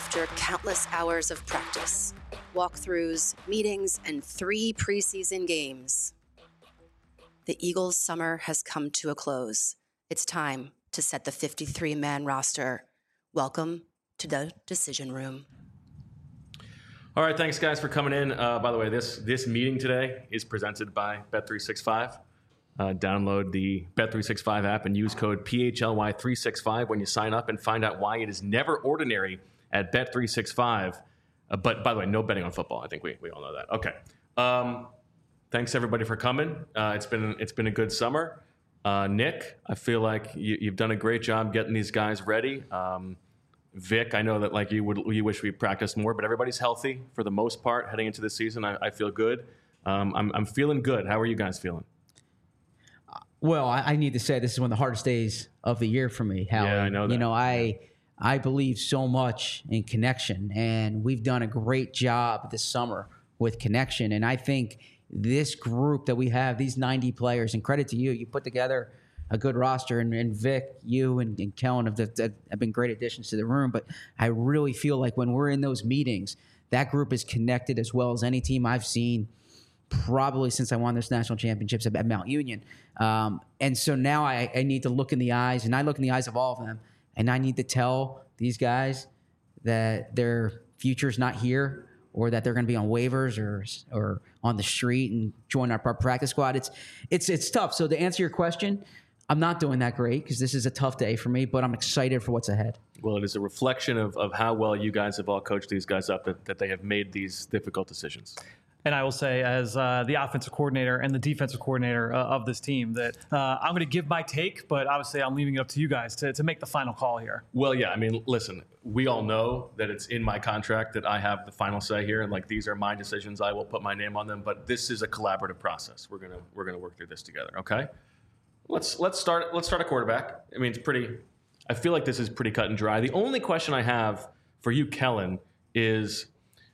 After countless hours of practice, walkthroughs, meetings, and 3 preseason games, the Eagles' summer has come to a close. It's time to set the 53-man roster. Welcome to the Decision Room. All right, thanks guys for coming in. By the way, this meeting today is presented by Bet365. Download the Bet365 app and use code PHLY365 when you sign up and find out why it is never ordinary at Bet365. But by the way, no betting on football. I think we all know that. Okay. Thanks everybody for coming. It's been a good summer. Nick, I feel like you've done a great job getting these guys ready. Vic, I know that like you wish we practiced more, but everybody's healthy for the most part heading into this season. I feel good. I'm feeling good. How are you guys feeling? Well, I need to say this is one of the hardest days of the year for me, Howie. Yeah, I know that. You know, I believe so much in connection, and we've done a great job this summer with connection. And I think this group that we have, these 90 players, and credit to you, you put together a good roster. And Vic, you and Kellen have been great additions to the room. But I really feel like when we're in those meetings, that group is connected as well as any team I've seen probably since I won those national championships at Mount Union. And so now I need to look in the eyes, and I look in the eyes of all of them, and I need to tell these guys that their future's not here, or that they're going to be on waivers or on the street and join our practice squad. It's tough. So to answer your question, I'm not doing that great because this is a tough day for me, but I'm excited for what's ahead. Well, it is a reflection of how well you guys have all coached these guys up that they have made these difficult decisions. And I will say, as the offensive coordinator and the defensive coordinator of this team, that I'm going to give my take, but obviously I'm leaving it up to you guys to make the final call here. Well, yeah, I mean, listen, we all know that it's in my contract that I have the final say here, and like these are my decisions. I will put my name on them, but this is a collaborative process. We're gonna work through this together. Okay, let's start a quarterback. I mean, I feel like this is pretty cut and dry. The only question I have for you, Kellen, is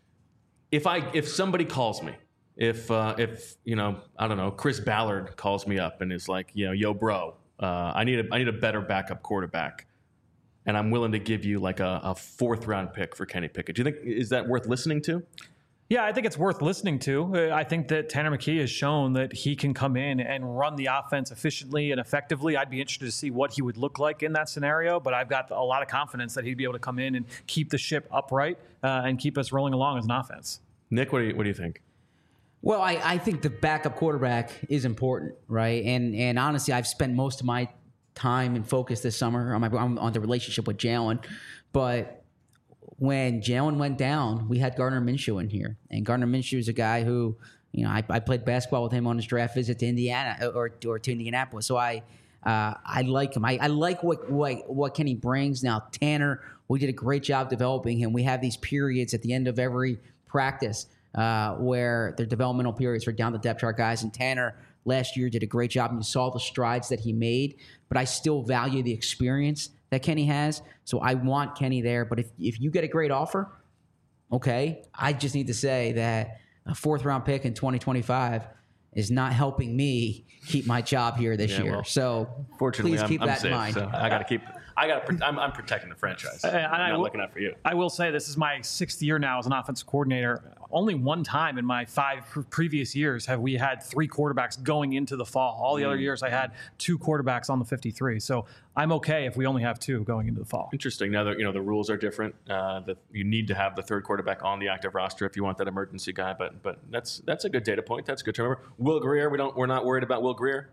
if somebody calls me, if you know, I don't know, Chris Ballard calls me up and is like, you know, yo, bro, I need a better backup quarterback, and I'm willing to give you like a 4th round pick for Kenny Pickett. Do you think is that worth listening to? Yeah, I think it's worth listening to. I think that Tanner McKee has shown that he can come in and run the offense efficiently and effectively. I'd be interested to see what he would look like in that scenario, but I've got a lot of confidence that he'd be able to come in and keep the ship upright and keep us rolling along as an offense. Nick, what do you think? Well, I think the backup quarterback is important, right? And honestly, I've spent most of my time and focus this summer on the relationship with Jalen, but when Jalen went down, we had Gardner Minshew in here. And Gardner Minshew is a guy who, you know, I played basketball with him on his draft visit to Indiana or to Indianapolis. So I like him. I like what Kenny brings. Now, Tanner, we did a great job developing him. We have these periods at the end of every practice where their developmental periods for down the depth chart guys. And Tanner last year did a great job, and you saw the strides that he made. But I still value the experience that Kenny has. So I want Kenny there. But if you get a great offer, okay, I just need to say that a 4th round pick in 2025 is not helping me keep my job here this year. Well, so fortunately, please keep I'm that safe, in mind. So I'm protecting the franchise. I'm not looking out for you. I will say this is my 6th year now as an offensive coordinator. Only one time in my 5 previous years have we had 3 quarterbacks going into the fall. All the other years I had 2 quarterbacks on the 53. So I'm okay if we only have 2 going into the fall. Interesting. Now that the rules are different, that you need to have the 3rd quarterback on the active roster if you want that emergency guy. But that's a good data point. That's good to remember. Will Grier, we're not worried about Will Grier.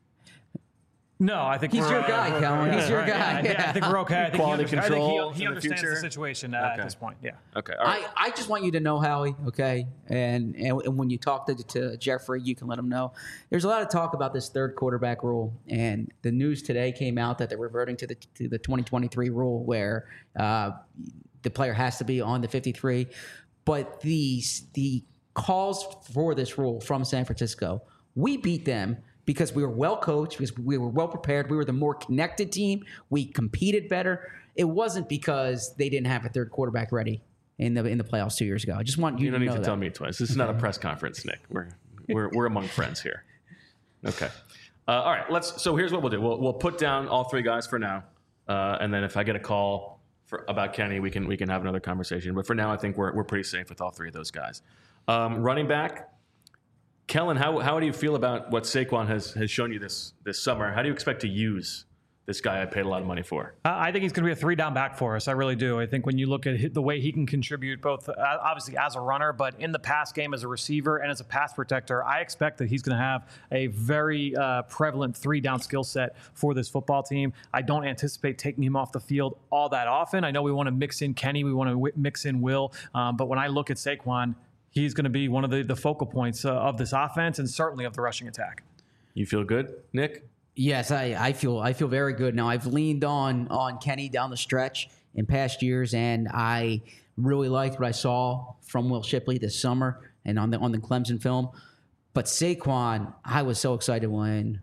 No, I think he's your guy, Kellen. He's your guy. Yeah, I think we're okay. I think Quality control. He understands the situation at this point. Yeah. Okay. All right. I just want you to know, Howie. Okay, and when you talk to Jeffrey, you can let him know. There's a lot of talk about this 3rd quarterback rule, and the news today came out that they're reverting to the 2023 rule where the player has to be on the 53. But the calls for this rule from San Francisco, we beat them because we were well coached, because we were well prepared. We were the more connected team. We competed better. It wasn't because they didn't have a 3rd quarterback ready in the playoffs 2 years ago. I just want you to know that. You don't need to tell me twice. This is not a press conference, Nick. We're among friends here. Okay. All right. So here's what we'll do. We'll put down all 3 guys for now, and then if I get a call about Kenny, we can have another conversation. But for now, I think we're pretty safe with all three of those guys. Running back, Kellen, how do you feel about what Saquon has shown you this summer? How do you expect to use this guy I paid a lot of money for? I think he's going to be a 3-down back for us. I really do. I think when you look at the way he can contribute, both obviously as a runner, but in the pass game as a receiver and as a pass protector, I expect that he's going to have a very prevalent 3-down skill set for this football team. I don't anticipate taking him off the field all that often. I know we want to mix in Kenny, we want to mix in Will, but when I look at Saquon, he's going to be one of the focal points of this offense and certainly of the rushing attack. You feel good, Nick? Yes, I feel very good. Now, I've leaned on Kenny down the stretch in past years, and I really liked what I saw from Will Shipley this summer and on the Clemson film. But Saquon, I was so excited when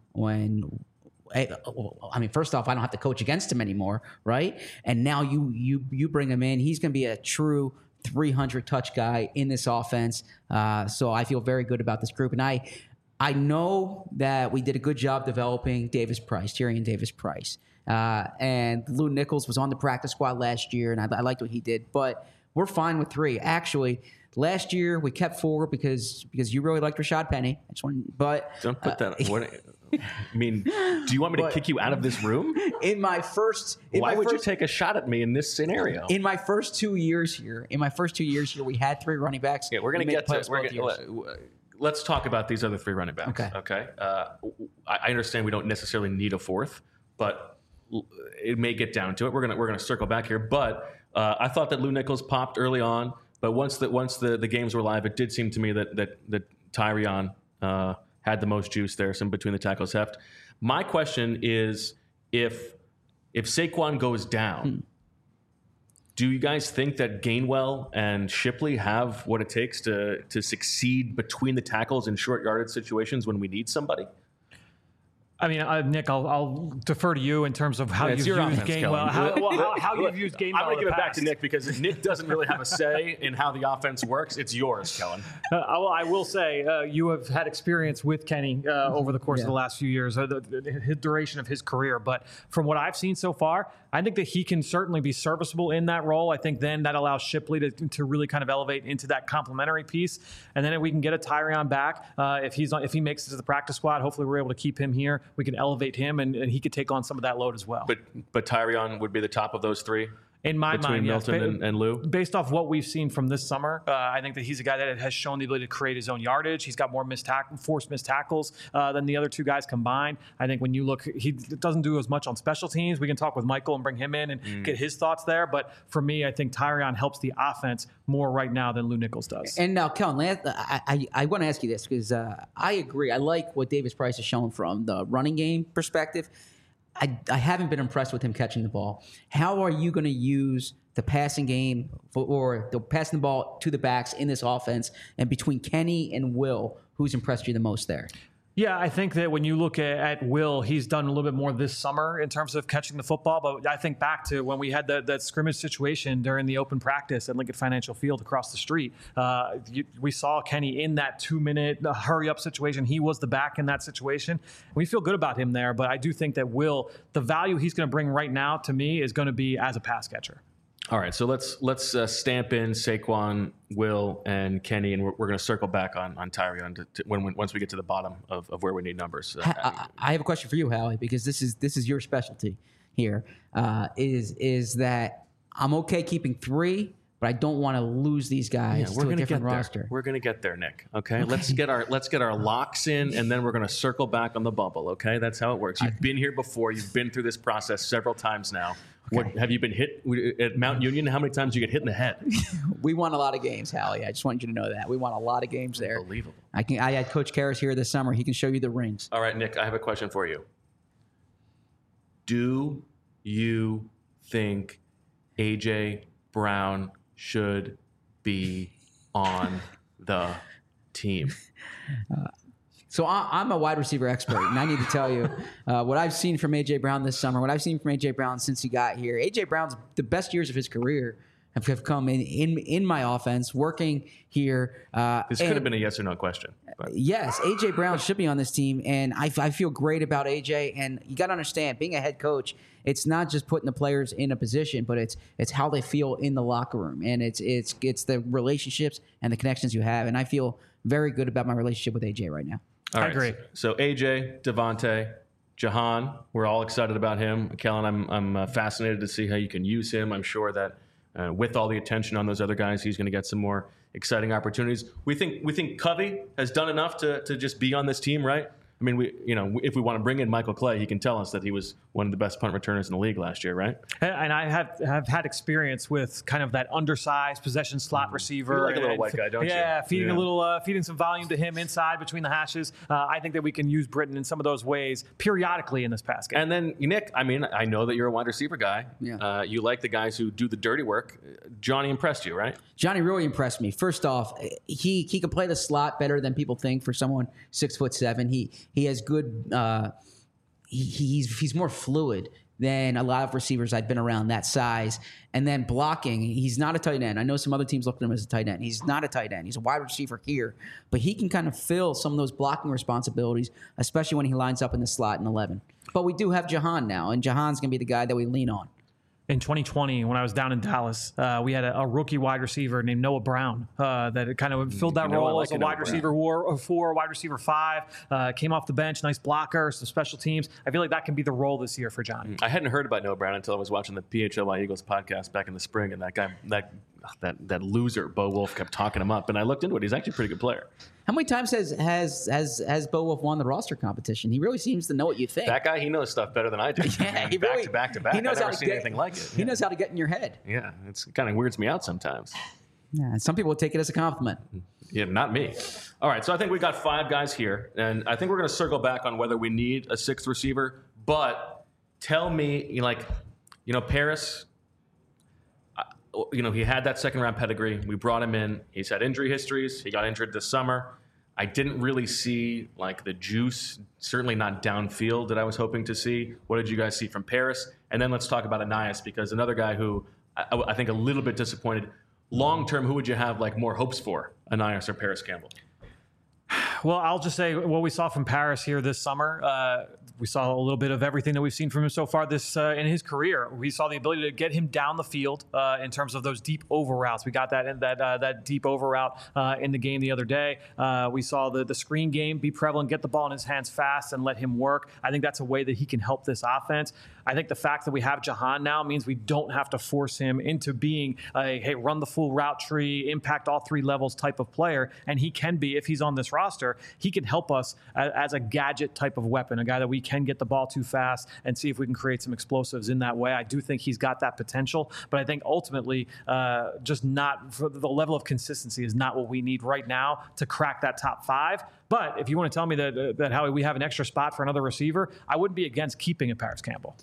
first off, I don't have to coach against him anymore, right? And now you bring him in. He's going to be a true 300 touch guy in this offense. So I feel very good about this group, and I know that we did a good job developing Tyrion Davis Price. And Lou Nichols was on the practice squad last year, and I liked what he did. But we're fine with 3. Actually, last year we kept 4 because you really liked Rashad Penny. Don't put that. I mean, do you want me to kick you out of this room? Why would you take a shot at me in this scenario? In my first 2 years here, we had 3 running backs. Yeah, we're going to get to. Let's talk about these other 3 running backs. Okay. I understand we don't necessarily need a 4th, but it may get down to it. We're gonna circle back here. But I thought that Lou Nichols popped early on, but once the games were live, it did seem to me that Tyrion had the most juice there, some between the tackles heft. My question is, if Saquon goes down, do you guys think that Gainwell and Shipley have what it takes to succeed between the tackles in short yardage situations when we need somebody? I mean, Nick, I'll defer to you in terms of how you've used Gainwell. How you've used Gainwell. I'm going to give it back to Nick because Nick doesn't really have a say in how the offense works. It's yours, Kellen. I will say you have had experience with Kenny over the course of the last few years, the duration of his career. But from what I've seen so far, I think that he can certainly be serviceable in that role. I think then that allows Shipley to really kind of elevate into that complementary piece. And then if we can get a Tyrion back, if he makes it to the practice squad, hopefully we're able to keep him here. We can elevate him, and he could take on some of that load as well. But Tyrion would be the top of those 3? In my mind, yes. Milton and Lou? Based off what we've seen from this summer, I think that he's a guy that has shown the ability to create his own yardage. He's got more forced missed tackles than the other 2 guys combined. I think when you look, he doesn't do as much on special teams. We can talk with Michael and bring him in and get his thoughts there. But for me, I think Tyrion helps the offense more right now than Lou Nichols does. And now, Kellen, I want to ask you this because I agree. I like what Davis Price has shown from the running game perspective. I haven't been impressed with him catching the ball. How are you going to use the passing game or the passing the ball to the backs in this offense? And between Kenny and Will, who's impressed you the most there? Yeah, I think that when you look at Will, he's done a little bit more this summer in terms of catching the football. But I think back to when we had that scrimmage situation during the open practice at Lincoln Financial Field across the street. We saw Kenny in that 2-minute hurry-up situation. He was the back in that situation. We feel good about him there. But I do think that Will, the value he's going to bring right now to me is going to be as a pass catcher. All right, so let's stamp in Saquon, Will, and Kenny, and we're going to circle back on Tyrion once we get to the bottom of where we need numbers. I have a question for you, Howie, because this is your specialty here. Is that I'm okay keeping 3, but I don't want to lose these guys to a different roster. We're going to get there, Nick. Okay? Let's get our locks in, and then we're going to circle back on the bubble. Okay, that's how it works. You've been here before. You've been through this process several times now. Okay. What have you been hit at Mount Union? How many times did you get hit in the head? We won a lot of games, Howie. I just want you to know that we won a lot of games there. Unbelievable. I had Coach Karras here this summer. He can show you the rings. All right, Nick. I have a question for you. Do you think AJ Brown should be on the team? So I'm a wide receiver expert, and I need to tell you what I've seen from A.J. Brown this summer, what I've seen from A.J. Brown since he got here. A.J. Brown's the best years of his career have come in my offense, working here. This could have been a yes or no question. But. Yes, A.J. Brown should be on this team, and I feel great about A.J., and you got to understand, being a head coach, it's not just putting the players in a position, but it's how they feel in the locker room, and it's the relationships and the connections you have, and I feel very good about my relationship with A.J. right now. All right. I agree. So AJ, Devontae, Jahan, we're all excited about him. Kellen, I'm fascinated to see how you can use him. I'm sure that with all the attention on those other guys, he's going to get some more exciting opportunities. We think Covey has done enough to just be on this team, right? I mean, if we want to bring in Michael Clay, he can tell us that he was one of the best punt returners in the league last year, right? And I have had experience with kind of that undersized possession slot receiver. You like a little white guy, don't you? Yeah, feeding some volume to him inside between the hashes. I think that we can use Britton in some of those ways periodically in this pass game. And then, Nick, I mean, I know that you're a wide receiver guy. Yeah. You like the guys who do the dirty work. Johnny impressed you, right? Johnny really impressed me. First off, he can play the slot better than people think for someone 6'7". He has good. He's more fluid than a lot of receivers I've been around that size. And then blocking, he's not a tight end. I know some other teams look at him as a tight end. He's not a tight end. He's a wide receiver here, but he can kind of fill some of those blocking responsibilities, especially when he lines up in the slot in 11. But we do have Jahan now, and Jahan's going to be the guy that we lean on. In 2020, when I was down in Dallas, we had a rookie wide receiver named Noah Brown that kind of filled that role as a wide receiver 4, wide receiver 5, came off the bench, nice blocker, some special teams. I feel like that can be the role this year for John. I hadn't heard about Noah Brown until I was watching the PHLY Eagles podcast back in the spring, and that guy, that loser, Bo Wolf, kept talking him up, and I looked into it. He's actually a pretty good player. How many times has Bo Wolf won the roster competition? He really seems to know what you think. That guy, he knows stuff better than I do. Yeah, he really, back to back. He knows I've how never to seen anything like it. He knows how to get in your head. Yeah, it's kind of weirds me out sometimes. Yeah, and some people would take it as a compliment. Yeah, not me. All right, so I think we got 5 guys here, and I think we're going to circle back on whether we need a 6th receiver. But tell me, Paris. He had that second-round pedigree. We brought him in. He's had injury histories. He got injured this summer. I didn't really see, the juice, certainly not downfield that I was hoping to see. What did you guys see from Paris? And then let's talk about Ainias, because another guy who I think a little bit disappointed. Long-term, who would you have, more hopes for, Ainias or Paris Campbell? Well, I'll just say what we saw from Paris here this summer. We saw a little bit of everything that we've seen from him so far in his career. We saw the ability to get him down the field in terms of those deep over routes. We got that deep over route in the game the other day. We saw the screen game be prevalent, get the ball in his hands fast and let him work. I think that's a way that he can help this offense. I think the fact that we have Jahan now means we don't have to force him into being a run the full route tree, impact all 3 levels type of player. And he can be, if he's on this roster, he can help us as a gadget type of weapon, a guy that we can get the ball too fast and see if we can create some explosives in that way. I do think he's got that potential, but I think ultimately just not for the level of consistency is not what we need right now to crack that top 5. But if you want to tell me that Howie, we have an extra spot for another receiver, I wouldn't be against keeping a Paris Campbell.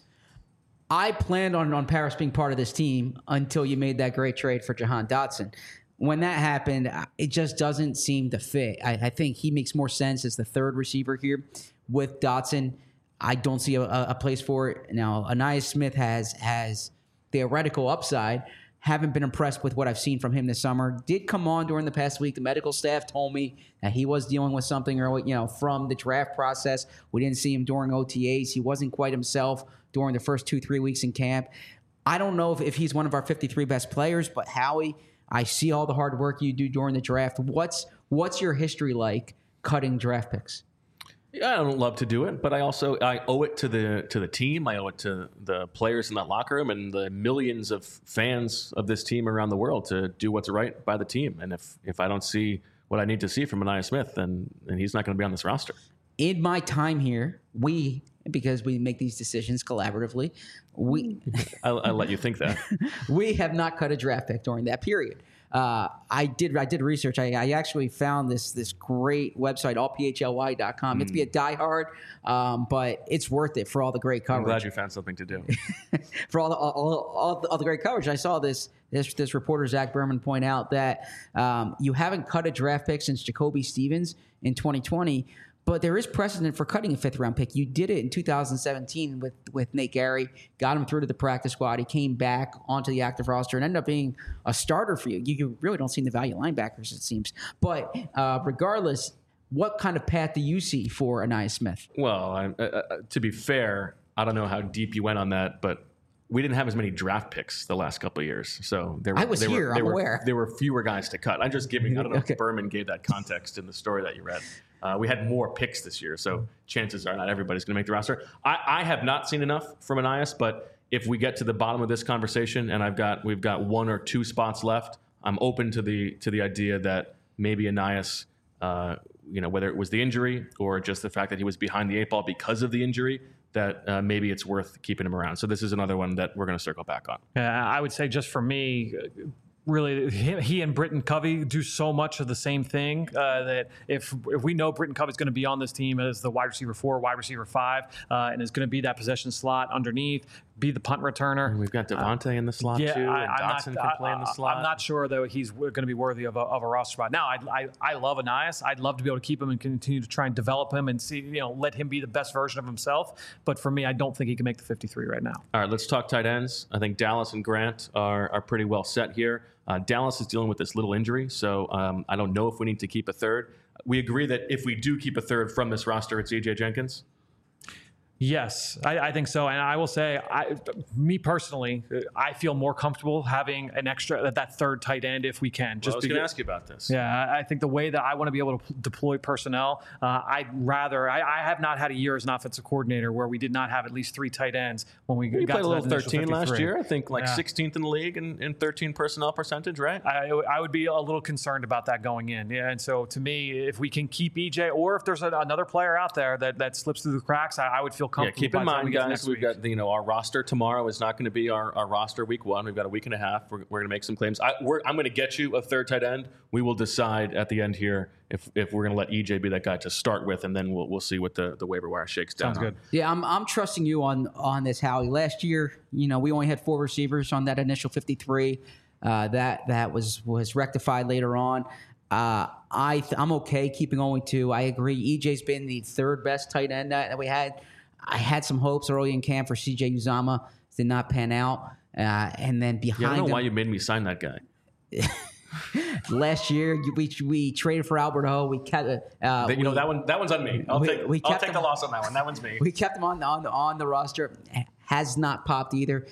I planned on Paris being part of this team until you made that great trade for Jahan Dotson. When that happened, it just doesn't seem to fit. I think he makes more sense as the 3rd receiver here with Dotson. I don't see a place for it. Now, Ainias Smith has theoretical upside. Haven't been impressed with what I've seen from him this summer. Did come on during the past week. The medical staff told me that he was dealing with something early, from the draft process. We didn't see him during OTAs. He wasn't quite himself during the first 2-3 weeks in camp. I don't know if he's one of our 53 best players, but Howie, I see all the hard work you do during the draft. What's your history like cutting draft picks? Yeah, I don't love to do it, but I owe it to the team. I owe it to the players in that locker room and the millions of fans of this team around the world to do what's right by the team. And if I don't see what I need to see from Ainias Smith, then he's not going to be on this roster. In my time here, because we make these decisions collaboratively, I'll let you think that. We have not cut a draft pick during that period. I did research. I actually found this great website, allphly.com. You have to be a diehard, but it's worth it for all the great coverage. I'm glad you found something to do. For all the great coverage. I saw this reporter, Zach Berman, point out that you haven't cut a draft pick since Jacoby Stevens in 2020, But there is precedent for cutting a 5th-round pick. You did it in 2017 with Nate Gary, got him through to the practice squad. He came back onto the active roster and ended up being a starter for you. You really don't see the value linebackers, it seems. But regardless, what kind of path do you see for Ainias Smith? Well, to be fair, I don't know how deep you went on that, but we didn't have as many draft picks the last couple of years. So I'm aware. There were fewer guys to cut. I'm just giving, I don't know if Berman gave that context in the story that you read. We had more picks this year, so chances are not everybody's going to make the roster. I have not seen enough from Ainias, but if we get to the bottom of this conversation and we've got 1 or 2 spots left, I'm open to the idea that maybe Ainias, whether it was the injury or just the fact that he was behind the 8 ball because of the injury, that maybe it's worth keeping him around. So this is another one that we're going to circle back on. I would say just for me, really, he and Britton Covey do so much of the same thing that if we know Britton Covey is going to be on this team as the wide receiver 4, wide receiver 5, and is going to be that possession slot underneath, be the punt returner. And we've got Devontae in the slot too, and Dotson can play in the slot. I'm not sure though he's going to be worthy of a roster spot. Now, I love Ainias. I'd love to be able to keep him and continue to try and develop him and see, let him be the best version of himself. But for me, I don't think he can make the 53 right now. All right, let's talk tight ends. I think Dallas and Grant are pretty well set here. Dallas is dealing with this little injury, so I don't know if we need to keep a third. We agree that if we do keep a third from this roster, it's E.J. Jenkins? Yes, I think so. And I will say, me personally, I feel more comfortable having an extra, that 3rd tight end if we can. I was going to ask you about this. Yeah, I think the way that I want to be able to deploy personnel, I have not had a year as an offensive coordinator where we did not have at least 3 tight ends when we got to a little 13 53. last year. I think 16th in the league in 13 personnel percentage, right? I would be a little concerned about that going in. Yeah, and so to me, if we can keep EJ, or if there's another player out there that slips through the cracks, I would feel comfortable. Yeah, keep in mind, guys, we've got our roster tomorrow is not going to be our roster week 1. We've got a week and a half. We're going to make some claims. I'm going to get you a 3rd tight end. We will decide at the end here if we're going to let EJ be that guy to start with, and then we'll see what the waiver wire shakes down. Sounds good. Yeah, I'm trusting you on this, Howie. Last year, we only had 4 receivers on that initial 53. That was rectified later on. I'm okay keeping only 2. I agree. EJ's been the 3rd best tight end that we had. I had some hopes early in camp for CJ Uzomah. Did not pan out. And then behind I don't know him, why you made me sign that guy. Last year, we traded for Albert O. We kept that one's on me. I'll take the loss on that one. That one's me. We kept him on the roster. Has not popped either.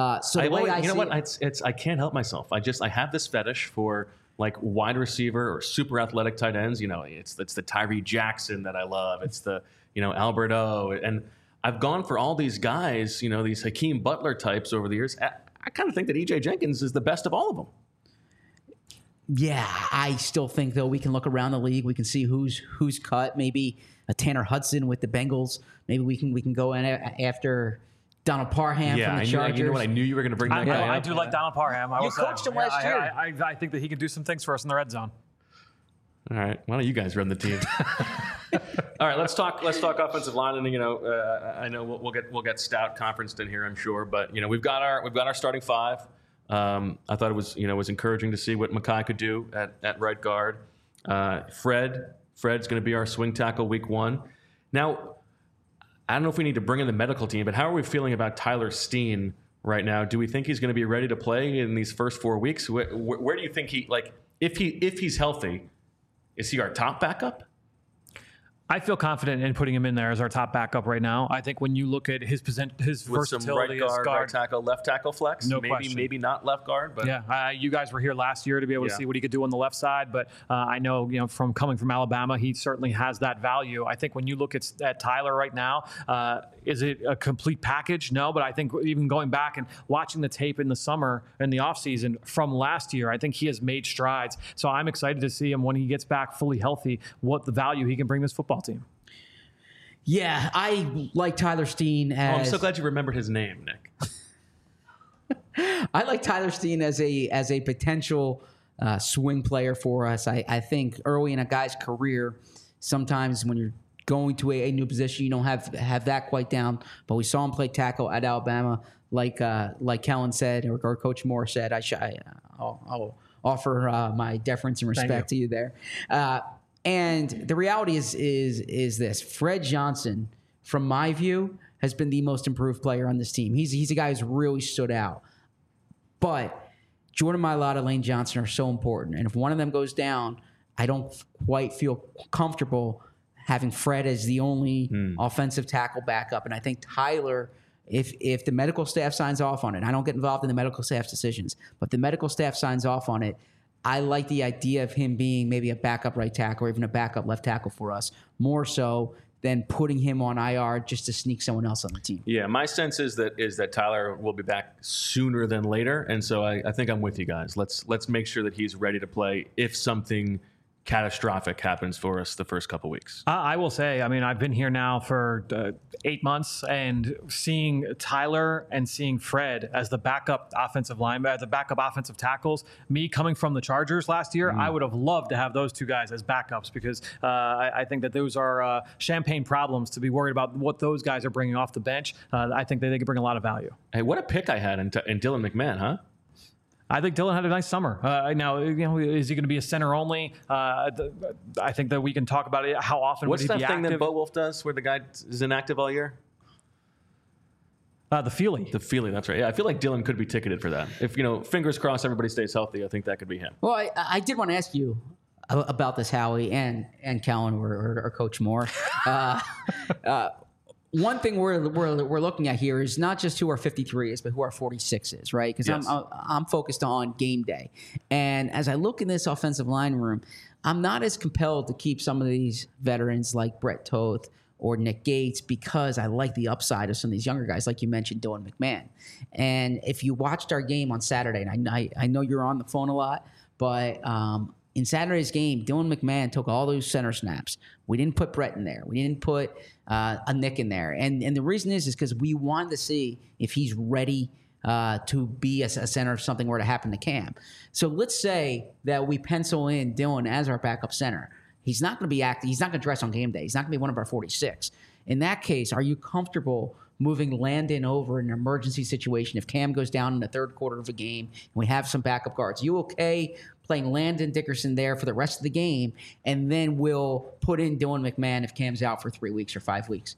I can't help myself. I have this fetish for like wide receiver or super athletic tight ends. It's the Tyree Jackson that I love. It's the Albert O. And I've gone for all these guys, these Hakeem Butler types over the years. I kind of think that E.J. Jenkins is the best of all of them. Yeah, I still think, though, we can look around the league. We can see who's cut. Maybe a Tanner Hudson with the Bengals. Maybe we can go in after Donald Parham from the Chargers. You know what? I knew you were going to bring that guy up. I do like Donald Parham. You coached him last year. I think that he can do some things for us in the red zone. All right. Why don't you guys run the team? All right. Let's talk offensive line, and I know we'll get Stout conferenced in here, I'm sure, but we've got our starting 5. I thought it was encouraging to see what Mekhi could do at right guard. Fred's going to be our swing tackle week 1. Now, I don't know if we need to bring in the medical team, but how are we feeling about Tyler Steen right now? Do we think he's going to be ready to play in these first 4 weeks? Where do you think if he's healthy, is he our top backup? I feel confident in putting him in there as our top backup right now. I think when you look at his with versatility some as guard, right tackle, left tackle flex, maybe not left guard, but yeah, you guys were here last year to be able to see what he could do on the left side. But I know, from coming from Alabama, he certainly has that value. I think when you look at Tyler right now, is it a complete package? No, but I think even going back and watching the tape in the summer and the offseason from last year, I think he has made strides. So I'm excited to see him when he gets back fully healthy, what the value he can bring this football team. Yeah, I like Tyler Steen as... I'm so glad you remembered his name, Nick. I like Tyler Steen as a potential swing player for us. I think early in a guy's career, sometimes when you're going to a new position, you don't have that quite down. But we saw him play tackle at Alabama, like Kellen said, or Coach Moore said. I'll offer my deference and respect to you there. And the reality is this: Fred Johnson, from my view, has been the most improved player on this team. He's a guy who's really stood out. But Jordan Mailata, Lane Johnson are so important. And if one of them goes down, I don't quite feel comfortable having Fred as the only offensive tackle backup. And I think Tyler, if the medical staff signs off on it, I don't get involved in the medical staff's decisions, but if the medical staff signs off on it, I like the idea of him being maybe a backup right tackle or even a backup left tackle for us, more so than putting him on IR just to sneak someone else on the team. Yeah, my sense is that Tyler will be back sooner than later, and so I think I'm with you guys. Let's make sure that he's ready to play if something catastrophic happens for us the first couple weeks. I will say, I mean, I've been here now for 8 months, and seeing Tyler and seeing Fred as the backup offensive lineman, the backup offensive tackles, me coming from the Chargers last year, I would have loved to have those two guys as backups because I think that those are champagne problems to be worried about what those guys are bringing off the bench. I think that they could bring a lot of value. Hey, what a pick I had in Dylan McMahon, huh? I think Dylan had a nice summer. Now, is he going to be a center only? I think that we can talk about it. How often What's would he be active? What's that thing that Bo Wolf does where the guy is inactive all year? The Feely. The Feely, that's right. Yeah, I feel like Dylan could be ticketed for that. If, fingers crossed everybody stays healthy, I think that could be him. Well, I did want to ask you about this, Howie and Callan or Coach Moore. One thing we're looking at here is not just who our 53 is, but who our 46 is, right? Because Yes. I'm focused on game day. And as I look in this offensive line room, I'm not as compelled to keep some of these veterans like Brett Toth or Nick Gates because I like the upside of some of these younger guys, like you mentioned, Dylan McMahon. And if you watched our game on Saturday, and I know you're on the phone a lot, but in Saturday's game, Dylan McMahon took all those center snaps. We didn't put Brett in there. We didn't put a Nick in there. And the reason is because we wanted to see if he's ready to be a center if something were to happen to Cam. So let's say that we pencil in Dylan as our backup center. He's not going to be active. He's not going to dress on game day. He's not going to be one of our 46. In that case, are you comfortable moving Landon over in an emergency situation if Cam goes down in the third quarter of a game and we have some backup guards? You okay playing Landon Dickerson there for the rest of the game, and then we'll put in Dylan McMahon if Cam's out for 3 weeks or 5 weeks?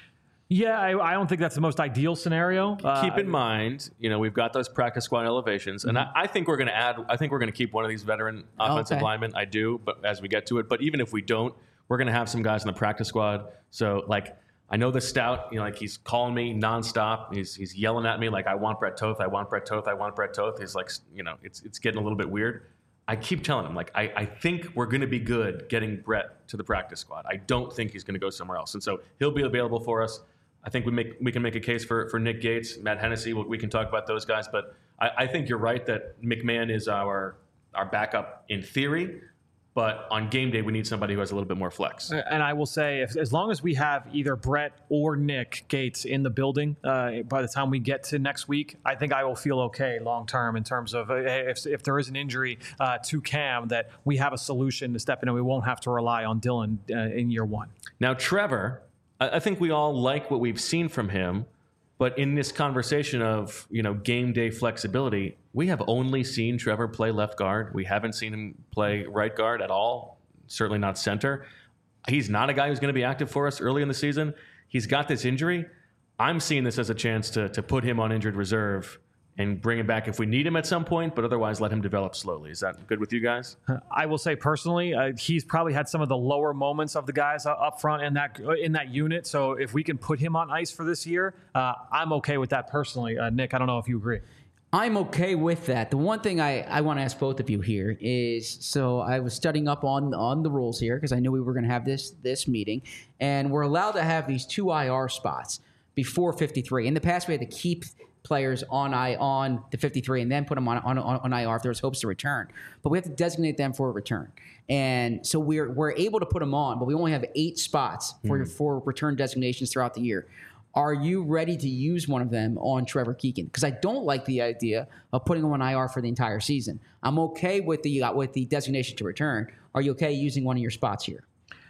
Yeah, I don't think that's the most ideal scenario. Keep in mind, we've got those practice squad elevations, and I think we're going to add. I think we're going to keep one of these veteran offensive linemen. I do, but as we get to it, but even if we don't, we're going to have some guys in the practice squad. So, I know the stout, he's calling me nonstop. He's yelling at me like, I want Brett Toth. I want Brett Toth. I want Brett Toth. He's like, it's getting a little bit weird. I keep telling him, I think we're going to be good getting Brett to the practice squad. I don't think he's going to go somewhere else. And so he'll be available for us. I think we can make a case for Nick Gates, Matt Hennessy. We can talk about those guys. But I think you're right that McMahon is our backup in theory. But on game day, we need somebody who has a little bit more flex. And I will say, as long as we have either Brett or Nick Gates in the building by the time we get to next week, I think I will feel okay long term in terms of if there is an injury to Cam, that we have a solution to step in and we won't have to rely on Dylan in year one. Now, Trevor, I think we all like what we've seen from him. But in this conversation of, game day flexibility, we have only seen Trevor play left guard. We haven't seen him play right guard at all, certainly not center. He's not a guy who's going to be active for us early in the season. He's got this injury. I'm seeing this as a chance to put him on injured reserve and bring him back if we need him at some point, but otherwise let him develop slowly. Is that good with you guys? I will say personally, he's probably had some of the lower moments of the guys up front in that unit. So if we can put him on ice for this year, I'm okay with that personally. Nick, I don't know if you agree. I'm okay with that. The one thing I want to ask both of you here is, so I was studying up on the rules here because I knew we were going to have this meeting, and we're allowed to have these 2 IR spots before 53. In the past, we had to keep players on the 53 and then put them on IR if there was hopes to return. But we have to designate them for a return. And so we're able to put them on, but we only have 8 spots for return designations throughout the year. Are you ready to use one of them on Trevor Keegan? Because I don't like the idea of putting him on IR for the entire season. I'm okay with the designation to return. Are you okay using one of your spots here?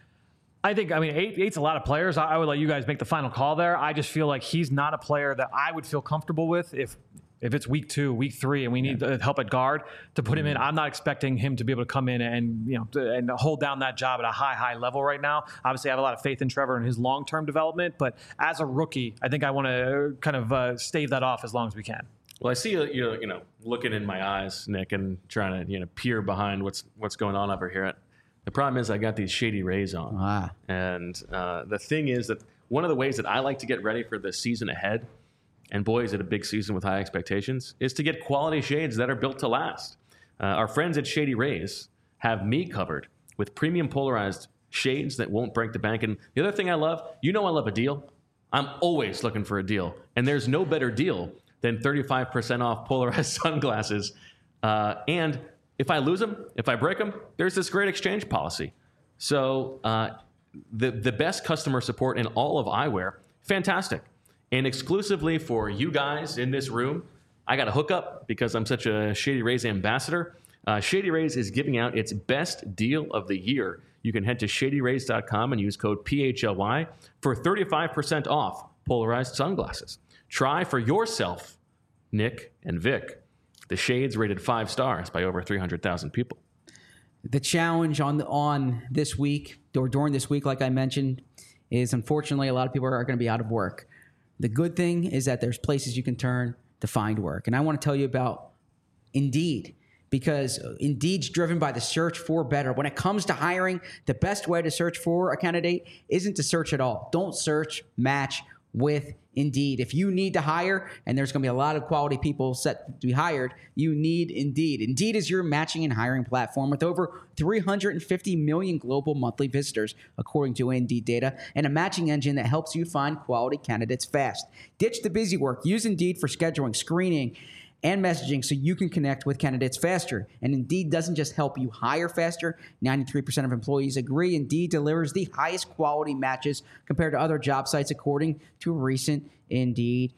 I think, eight's a lot of players. I would let you guys make the final call there. I just feel like he's not a player that I would feel comfortable with if If it's week 2, week 3, and we need help at guard to put him in, I'm not expecting him to be able to come in and and hold down that job at a high level right now. Obviously, I have a lot of faith in Trevor and his long-term development, but as a rookie, I think I want to kind of stave that off as long as we can. Well, I see you looking in my eyes, Nick, and trying to peer behind what's going on over here. The problem is I got these Shady Rays on, and the thing is that one of the ways that I like to get ready for the season ahead, and boy, is it a big season with high expectations, is to get quality shades that are built to last. Our friends at Shady Rays have me covered with premium polarized shades that won't break the bank. And the other thing I love, I love a deal. I'm always looking for a deal. And there's no better deal than 35% off polarized sunglasses. And if I lose them, if I break them, there's this great exchange policy. So the best customer support in all of eyewear, fantastic. And exclusively for you guys in this room, I got a hookup because I'm such a Shady Rays ambassador. Shady Rays is giving out its best deal of the year. You can head to shadyrays.com and use code PHLY for 35% off polarized sunglasses. Try for yourself, Nick and Vic, the shades rated 5 stars by over 300,000 people. The challenge on this week, or during this week, like I mentioned, is unfortunately a lot of people are going to be out of work. The good thing is that there's places you can turn to find work. And I want to tell you about Indeed, because Indeed's driven by the search for better. When it comes to hiring, the best way to search for a candidate isn't to search at all. Don't search, match with Indeed. If you need to hire, and there's going to be a lot of quality people set to be hired, you need Indeed. Indeed is your matching and hiring platform with over 350 million global monthly visitors, according to Indeed data, and a matching engine that helps you find quality candidates fast. Ditch the busy work. Use Indeed for scheduling, screening, and messaging so you can connect with candidates faster. And Indeed doesn't just help you hire faster. 93% of employees agree Indeed delivers the highest quality matches compared to other job sites, according to a recent Indeed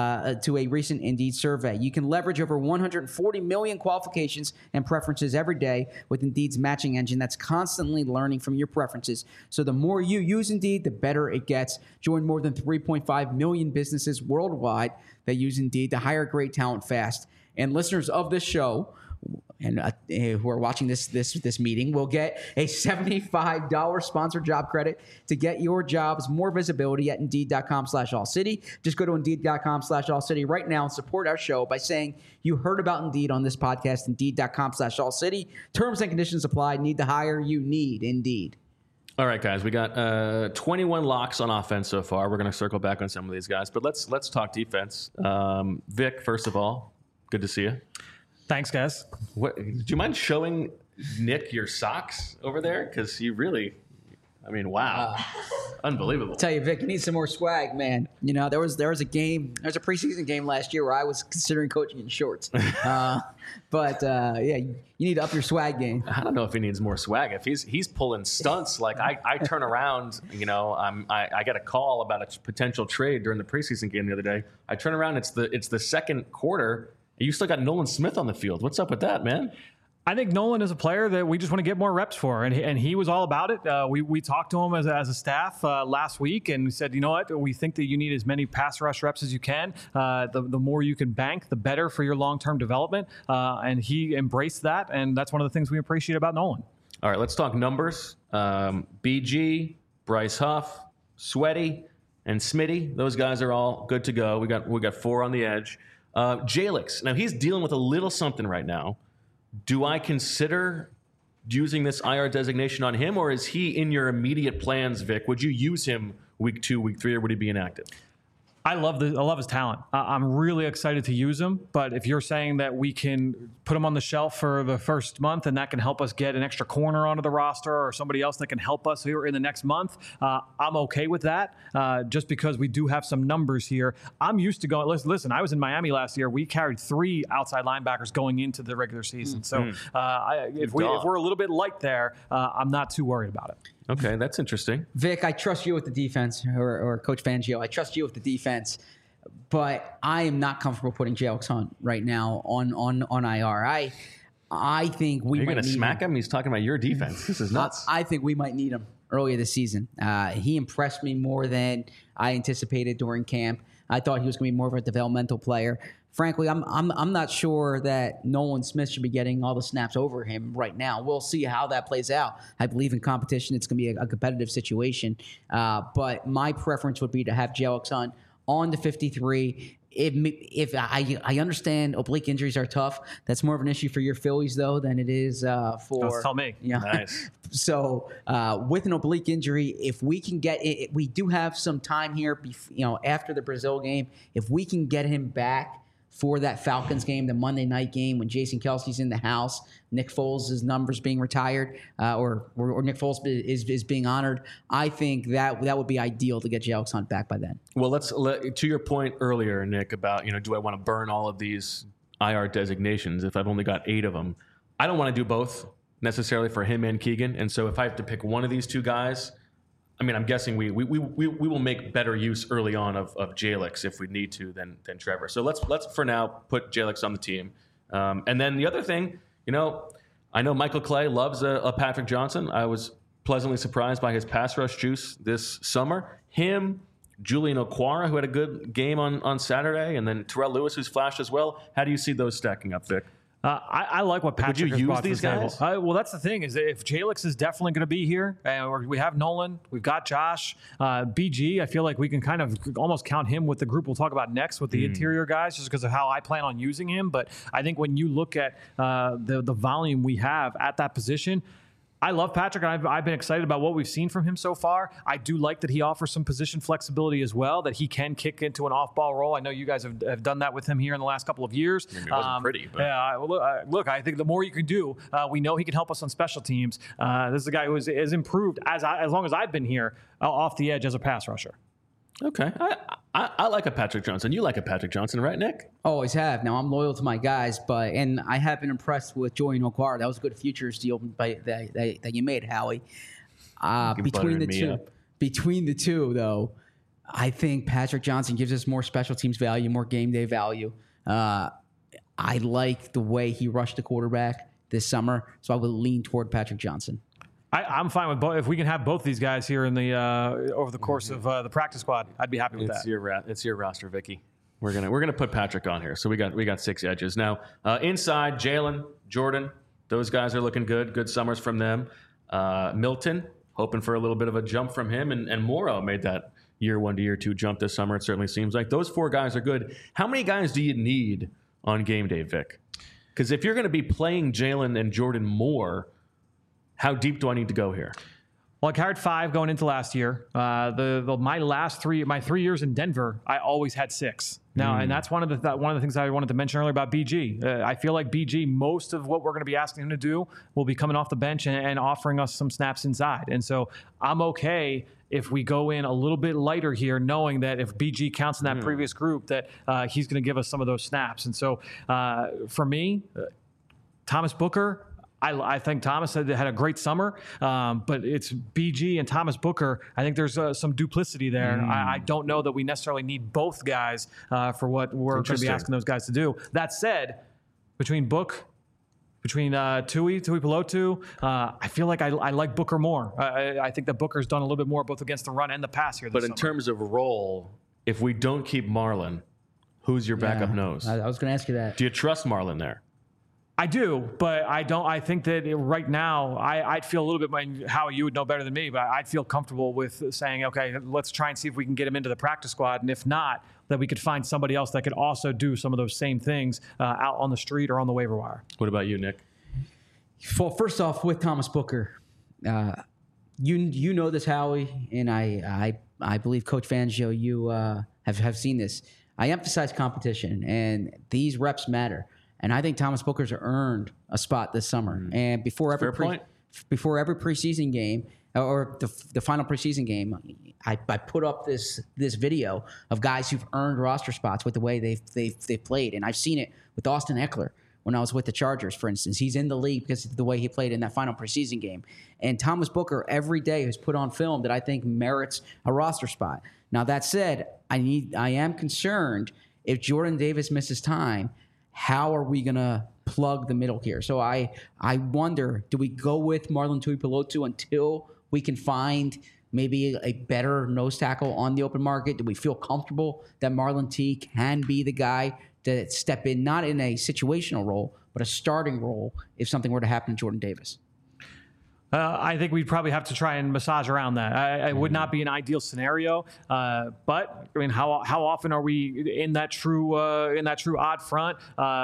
survey. You can leverage over 140 million qualifications and preferences every day with Indeed's matching engine that's constantly learning from your preferences. So the more you use Indeed, the better it gets. Join more than 3.5 million businesses worldwide that use Indeed to hire great talent fast. And listeners of this show and who are watching this meeting will get a $75 sponsored job credit to get your jobs more visibility at Indeed.com/AllCity. Just go to Indeed.com/AllCity right now and support our show by saying you heard about Indeed on this podcast. Indeed.com/AllCity. Terms and conditions apply. Need to hire? You need Indeed. All right, guys, we got 21 locks on offense so far. We're going to circle back on some of these guys, but let's talk defense. Vic, first of all, good to see you. Thanks, guys. Do you mind showing Nick your socks over there? Because you really, wow. Unbelievable. I'll tell you, Vic, you need some more swag, man. There was a preseason game last year where I was considering coaching in shorts. But you need to up your swag game. I don't know if he needs more swag. If he's pulling stunts, like I turn around, I get a call about a potential trade during the preseason game the other day. I turn around, it's the second quarter. You still got Nolan Smith on the field. What's up with that, man? I think Nolan is a player that we just want to get more reps for, and he was all about it. We talked to him as a staff last week and said, you know what, we think that you need as many pass rush reps as you can. The more you can bank, the better for your long-term development, and he embraced that, and that's one of the things we appreciate about Nolan. All right, let's talk numbers. BG, Bryce Huff, Sweaty, and Smitty, those guys are all good to go. We got 4 on the edge. Jalix, now he's dealing with a little something right now. Do I consider using this IR designation on him, or is he in your immediate plans, Vic? Would you use him week 2, week 3, or would he be inactive? I love his talent. I'm really excited to use him. But if you're saying that we can put him on the shelf for the first month and that can help us get an extra corner onto the roster or somebody else that can help us here in the next month, I'm okay with that. Just because we do have some numbers here. I'm used to going. Listen, I was in Miami last year. We carried 3 outside linebackers going into the regular season. So if we're a little bit light there, I'm not too worried about it. Okay, that's interesting. Vic, I trust you with the defense, or Coach Fangio. I trust you with the defense, but I am not comfortable putting Jalix Hunt right now on IR. I think we You're might going to smack him? He's talking about your defense. This is nuts. I think we might need him earlier this season. He impressed me more than I anticipated during camp. I thought he was going to be more of a developmental player. Frankly, I'm not sure that Nolan Smith should be getting all the snaps over him right now. We'll see how that plays out. I believe in competition, it's going to be a competitive situation. But my preference would be to have Jalen Hunt on the 53. If I understand oblique injuries are tough, that's more of an issue for your Phillies though than it is for. Tell me. Yeah. Nice. So with an oblique injury, if we can get it, we do have some time here. After the Brazil game, if we can get him back for that Falcons game, the Monday night game when Jason Kelce's in the house, Nick Foles' numbers being retired, or Nick Foles is being honored. I think that would be ideal to get Jalen Hunt back by then. Well, to your point earlier, Nick, about do I want to burn all of these IR designations if I've only got 8 of them? I don't want to do both necessarily for him and Keegan, and so if I have to pick one of these two guys, I mean, I'm guessing we will make better use early on of Jalix if we need to than Trevor. So let's for now put Jalix on the team. And then the other thing, I know Michael Clay loves a Patrick Johnson. I was pleasantly surprised by his pass rush juice this summer. Him, Julian Okwara, who had a good game on Saturday, and then Terrell Lewis, who's flashed as well. How do you see those stacking up, Vic? I like what Patrick has brought to the table. Guys? Well, that's the thing is that if Jalix is definitely going to be here, and we have Nolan, we've got Josh, BG. I feel like we can kind of almost count him with the group we'll talk about next with the interior guys, just because of how I plan on using him. But I think when you look at the volume we have at that position, I love Patrick, and I've been excited about what we've seen from him so far. I do like that he offers some position flexibility as well, that he can kick into an off-ball role. I know you guys have done that with him here in the last couple of years. I mean, it wasn't pretty. But. Yeah, look, I think the more you can do, we know he can help us on special teams. This is a guy who has improved as long as I've been here off the edge as a pass rusher. Okay. I like a Patrick Johnson. You like a Patrick Johnson, right, Nick? Always have. Now, I'm loyal to my guys, and I have been impressed with Julian Okwara. That was a good futures deal that you made, Howie. Between the two, though, I think Patrick Johnson gives us more special teams value, more game day value. I like the way he rushed the quarterback this summer, so I would lean toward Patrick Johnson. I'm fine with both. If we can have both these guys here in the over the course of the practice squad, I'd be happy with that. It's your roster, Vicky. We're gonna put Patrick on here. So we got 6 edges now. Inside, Jalen, Jordan, those guys are looking good. Good summers from them. Milton, hoping for a little bit of a jump from him, and Morrow made that year 1 to year 2 jump this summer. It certainly seems like those 4 guys are good. How many guys do you need on game day, Vic? Because if you're going to be playing Jalen and Jordan more, how deep do I need to go here? Well, I carried 5 going into last year. My 3 years in Denver, I always had 6. Now, and that's one of the things I wanted to mention earlier about BG. I feel like BG, most of what we're going to be asking him to do will be coming off the bench and offering us some snaps inside. And so I'm okay if we go in a little bit lighter here, knowing that if BG counts in that previous group, that he's going to give us some of those snaps. And so for me, Thomas Booker, I think Thomas had a great summer, but it's BG and Thomas Booker. I think there's some duplicity there. I don't know that we necessarily need both guys for what we're going to be asking those guys to do. That said, between Tui Pelotu, I feel like I like Booker more. I think that Booker's done a little bit more both against the run and the pass here this summer. But in terms of role, if we don't keep Marlon, who's your backup nose? I was going to ask you that. Do you trust Marlon there? I do, but I don't. I think that right now, I'd feel a little bit, how you would know better than me, but I'd feel comfortable with saying, okay, let's try and see if we can get him into the practice squad. And if not, that we could find somebody else that could also do some of those same things out on the street or on the waiver wire. What about you, Nick? Well, first off, with Thomas Booker, you know this, Howie, and I believe Coach Fangio, you have seen this. I emphasize competition, and these reps matter. And I think Thomas Booker's earned a spot this summer. And before every preseason game or the final preseason game, I put up this video of guys who've earned roster spots with the way they've played. And I've seen it with Austin Eckler when I was with the Chargers, for instance. He's in the league because of the way he played in that final preseason game. And Thomas Booker every day has put on film that I think merits a roster spot. Now, that said, I am concerned if Jordan Davis misses time, how are we going to plug the middle here? So I wonder, do we go with Marlon Tui Pelotu until we can find maybe a better nose tackle on the open market? Do we feel comfortable that Marlon T can be the guy to step in, not in a situational role, but a starting role if something were to happen to Jordan Davis? I think we'd probably have to try and massage around that. It would not be an ideal scenario, but I mean, how often are we in that true odd front?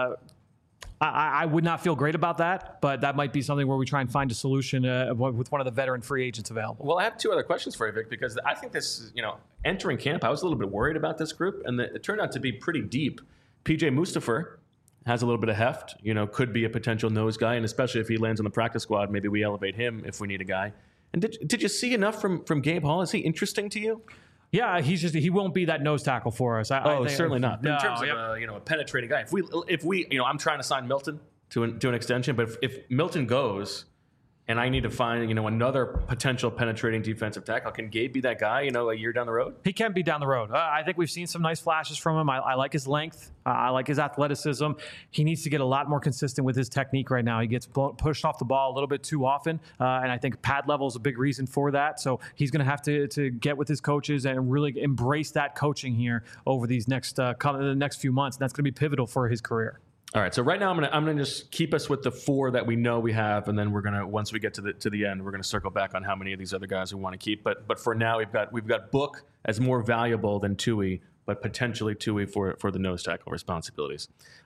I would not feel great about that, but that might be something where we try and find a solution with one of the veteran free agents available. Well, I have two other questions for you, Vic, because I think this, entering camp, I was a little bit worried about this group, and it turned out to be pretty deep. PJ Mustipher has a little bit of heft, could be a potential nose guy, and especially if he lands on the practice squad, maybe we elevate him if we need a guy. And did you see enough from Gabe Hall? Is he interesting to you? Yeah, he won't be that nose tackle for us. I think, certainly not. No, in terms of a penetrating guy, if we I'm trying to sign Milton to an extension, but if Milton goes and I need to find another potential penetrating defensive tackle, can Gabe be that guy a year down the road? He can be down the road. I think we've seen some nice flashes from him. I like his length. I like his athleticism. He needs to get a lot more consistent with his technique right now. He gets pushed off the ball a little bit too often, and I think pad level is a big reason for that. So he's going to have to get with his coaches and really embrace that coaching here over these next few months. And that's going to be pivotal for his career. All right, so right now I'm gonna just keep us with the four that we know we have, and then we're gonna, once we get to the end, we're gonna circle back on how many of these other guys we want to keep. But for now, we've got Book as more valuable than Tui, but potentially Tui for the nose tackle responsibilities.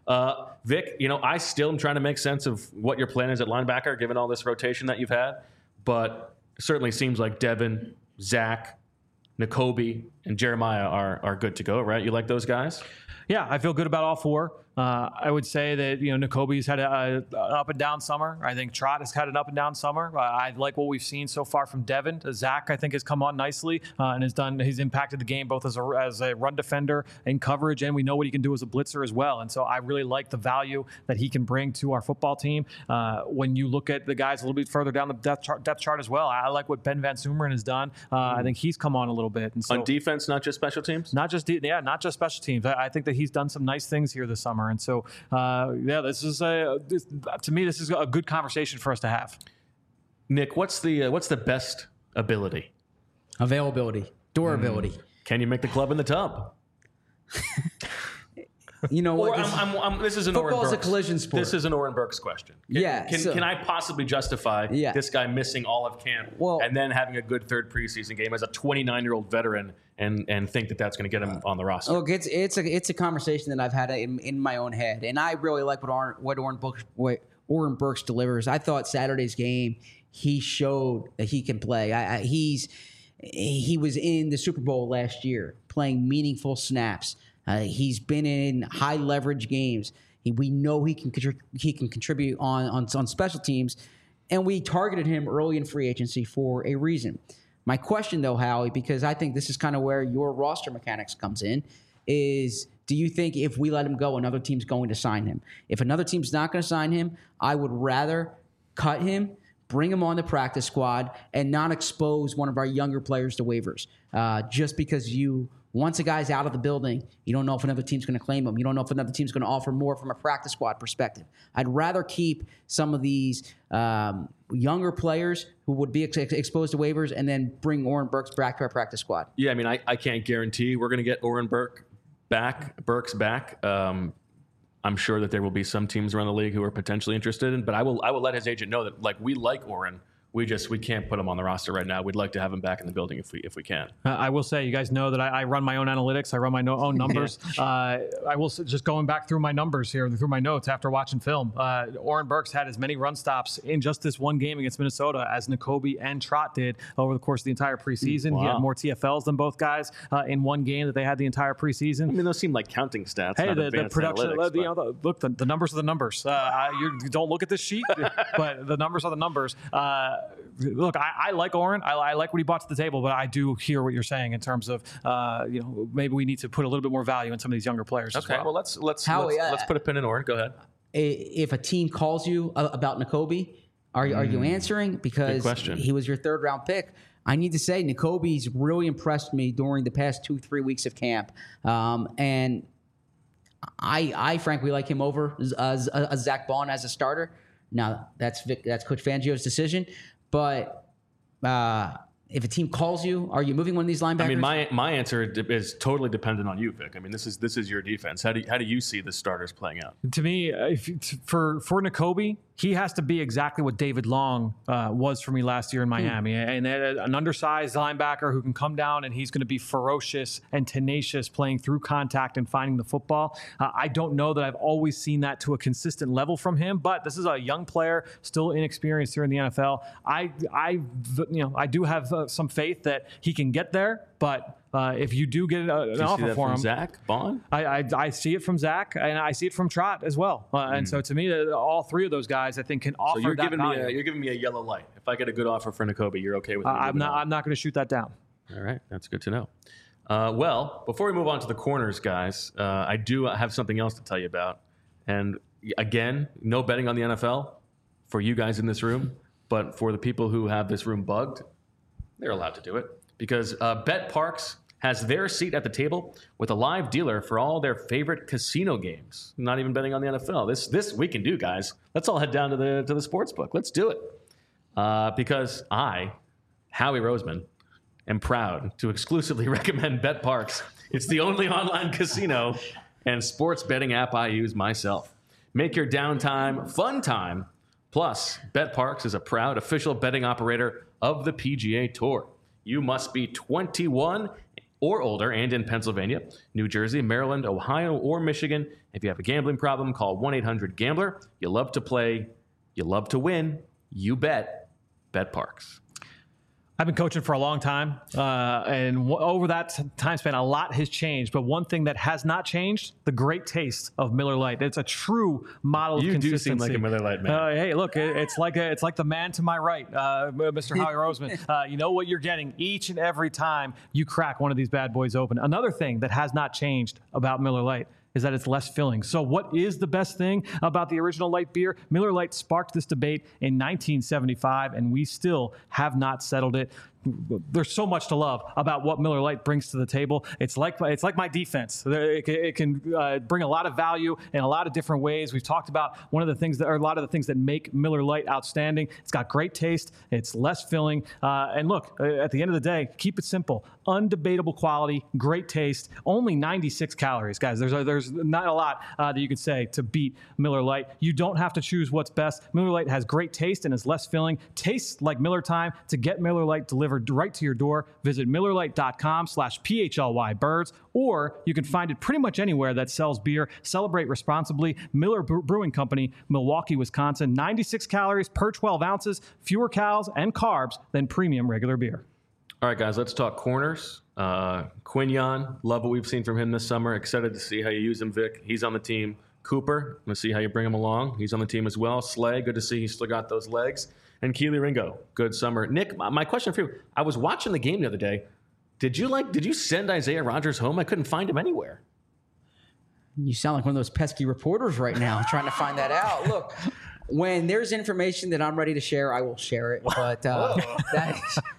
Vic, I still am trying to make sense of what your plan is at linebacker, given all this rotation that you've had. But it certainly seems like Devin, Zach, Nakobe, and Jeremiah are good to go, right? You like those guys? Yeah, I feel good about all four. I would say that Nakobe's had an up and down summer. I think Trot has had an up and down summer. I like what we've seen so far from Devin. Zach, I think, has come on nicely and he's impacted the game both as a run defender in coverage, and we know what he can do as a blitzer as well. And so I really like the value that he can bring to our football team. When you look at the guys a little bit further down the depth chart as well, I like what Ben Van Sumeren has done. I think he's come on a little bit. And so, on defense, not just special teams? Not just special teams. I think that he's done some nice things here this summer. And so, this is to me, this is a good conversation for us to have. Nick, what's the best ability? Availability, durability. Can you make the club in the tub? You know what? This is an Oren Burks. Football's a collision sport. This is an Oren Burks question. Can I possibly justify this guy missing all of camp and then having a good third preseason game as a 29-year-old veteran and think that that's going to get him on the roster? Look, it's a conversation that I've had in my own head, and I really like what Oren Burks delivers. I thought Saturday's game, he showed that he can play. He was in the Super Bowl last year playing meaningful snaps. He's been in high leverage games. We know he can contribute on special teams, and we targeted him early in free agency for a reason. My question, though, Howie, because I think this is kind of where your roster mechanics comes in, is do you think if we let him go, another team's going to sign him? If another team's not going to sign him, I would rather cut him, bring him on the practice squad, and not expose one of our younger players to waivers. Just because once a guy's out of the building, you don't know if another team's going to claim him. You don't know if another team's going to offer more from a practice squad perspective. I'd rather keep some of these younger players who would be exposed to waivers and then bring Oren Burks back to our practice squad. Yeah, I mean, I can't guarantee we're going to get Oren Burks back. I'm sure that there will be some teams around the league who are potentially interested in, but I will let his agent know that we like Oren. We can't put him on the roster right now. We'd like to have him back in the building if we can. I will say, you guys know that I run my own analytics. I run my own numbers. I will say, just going back through my numbers here, through my notes after watching film, Oren Burks had as many run stops in just this one game against Minnesota as Nakobe and Trot did over the course of the entire preseason. Wow. He had more TFLs than both guys in one game that they had the entire preseason. I mean, those seem like counting stats. Hey, the production, look, the numbers are the numbers. You don't look at this sheet, but the numbers are the numbers. Look, I like Oren. I like what he brought to the table, but I do hear what you're saying in terms of, maybe we need to put a little bit more value in some of these younger players. Okay, well, let's put a pin in Oren. Go ahead. If a team calls you about Nakobe, are you answering? Because he was your third round pick. I need to say, Nakobe's really impressed me during the past 2-3 weeks of camp, and I frankly like him over Zach Bond as a starter. Now that's Coach Fangio's decision. But If a team calls you, are you moving one of these linebackers? I mean, my answer is totally dependent on you, Vic. I mean, this is your defense. How do you see the starters playing out? To me, for Nakobe, he has to be exactly what David Long was for me last year in Miami, and an undersized linebacker who can come down and he's going to be ferocious and tenacious, playing through contact and finding the football. I don't know that I've always seen that to a consistent level from him, but this is a young player, still inexperienced here in the NFL. I do have some faith that he can get there, but if you do get an offer for him, Zach Bond, I see it from Zach, and I see it from Trot as well. And so to me, all three of those guys, I think, can offer so you're that giving value. you're giving me a yellow light. If I get a good offer for Nakobe, you're okay with me? I'm not going to shoot that down. All right, that's good to know. Well, before we move on to the corners, guys, I do have something else to tell you about. And again, no betting on the NFL for you guys in this room, but for the people who have this room bugged, they're allowed to do it because BetParx has their seat at the table with a live dealer for all their favorite casino games. Not even betting on the NFL. This we can do, guys. Let's all head down to the sports book. Let's do it. Because I, Howie Roseman, am proud to exclusively recommend BetParx. It's the only online casino and sports betting app I use myself. Make your downtime fun time. Plus, BetParx is a proud official betting operator of the PGA Tour. You must be 21 or older and in Pennsylvania, New Jersey, Maryland, Ohio, or Michigan. If you have a gambling problem, call 1-800-GAMBLER. You love to play. You love to win. You bet. BetParx. I've been coaching for a long time, and over that time span, a lot has changed. But one thing that has not changed, the great taste of Miller Lite. It's a true model of consistency. You do seem like a Miller Lite man. Hey, look, it's like the man to my right, Mr. Howie Roseman. You know what you're getting each and every time you crack one of these bad boys open. Another thing that has not changed about Miller Lite is that it's less filling. So what is the best thing about the original light beer? Miller Lite sparked this debate in 1975, and we still have not settled it. There's so much to love about what Miller Lite brings to the table. It's like my defense. It can bring a lot of value in a lot of different ways. We've talked about a lot of the things that make Miller Lite outstanding. It's got great taste. It's less filling. And look, at the end of the day, keep it simple. Undebatable quality, great taste, only 96 calories, guys. There's not a lot that you could say to beat Miller Lite. You don't have to choose what's best. Miller Lite has great taste and is less filling. Tastes like Miller time. To get Miller Lite delivered right to your door, visit MillerLite.com/PHLYBirds, or you can find it pretty much anywhere that sells beer. Celebrate responsibly. Miller Brewing Company, Milwaukee, Wisconsin. 96 calories per 12 ounces, fewer calories and carbs than premium regular beer. All right, guys, let's talk corners. Quinyon, love what we've seen from him this summer. Excited to see how you use him, Vic. He's on the team. Cooper, let's see how you bring him along. He's on the team as well. Slay, good to see he's still got those legs. And Keely Ringo, good summer. Nick, my question for you, I was watching the game the other day. Did you send Isaiah Rodgers home? I couldn't find him anywhere. You sound like one of those pesky reporters right now trying to find that out. Look, when there's information that I'm ready to share, I will share it. But that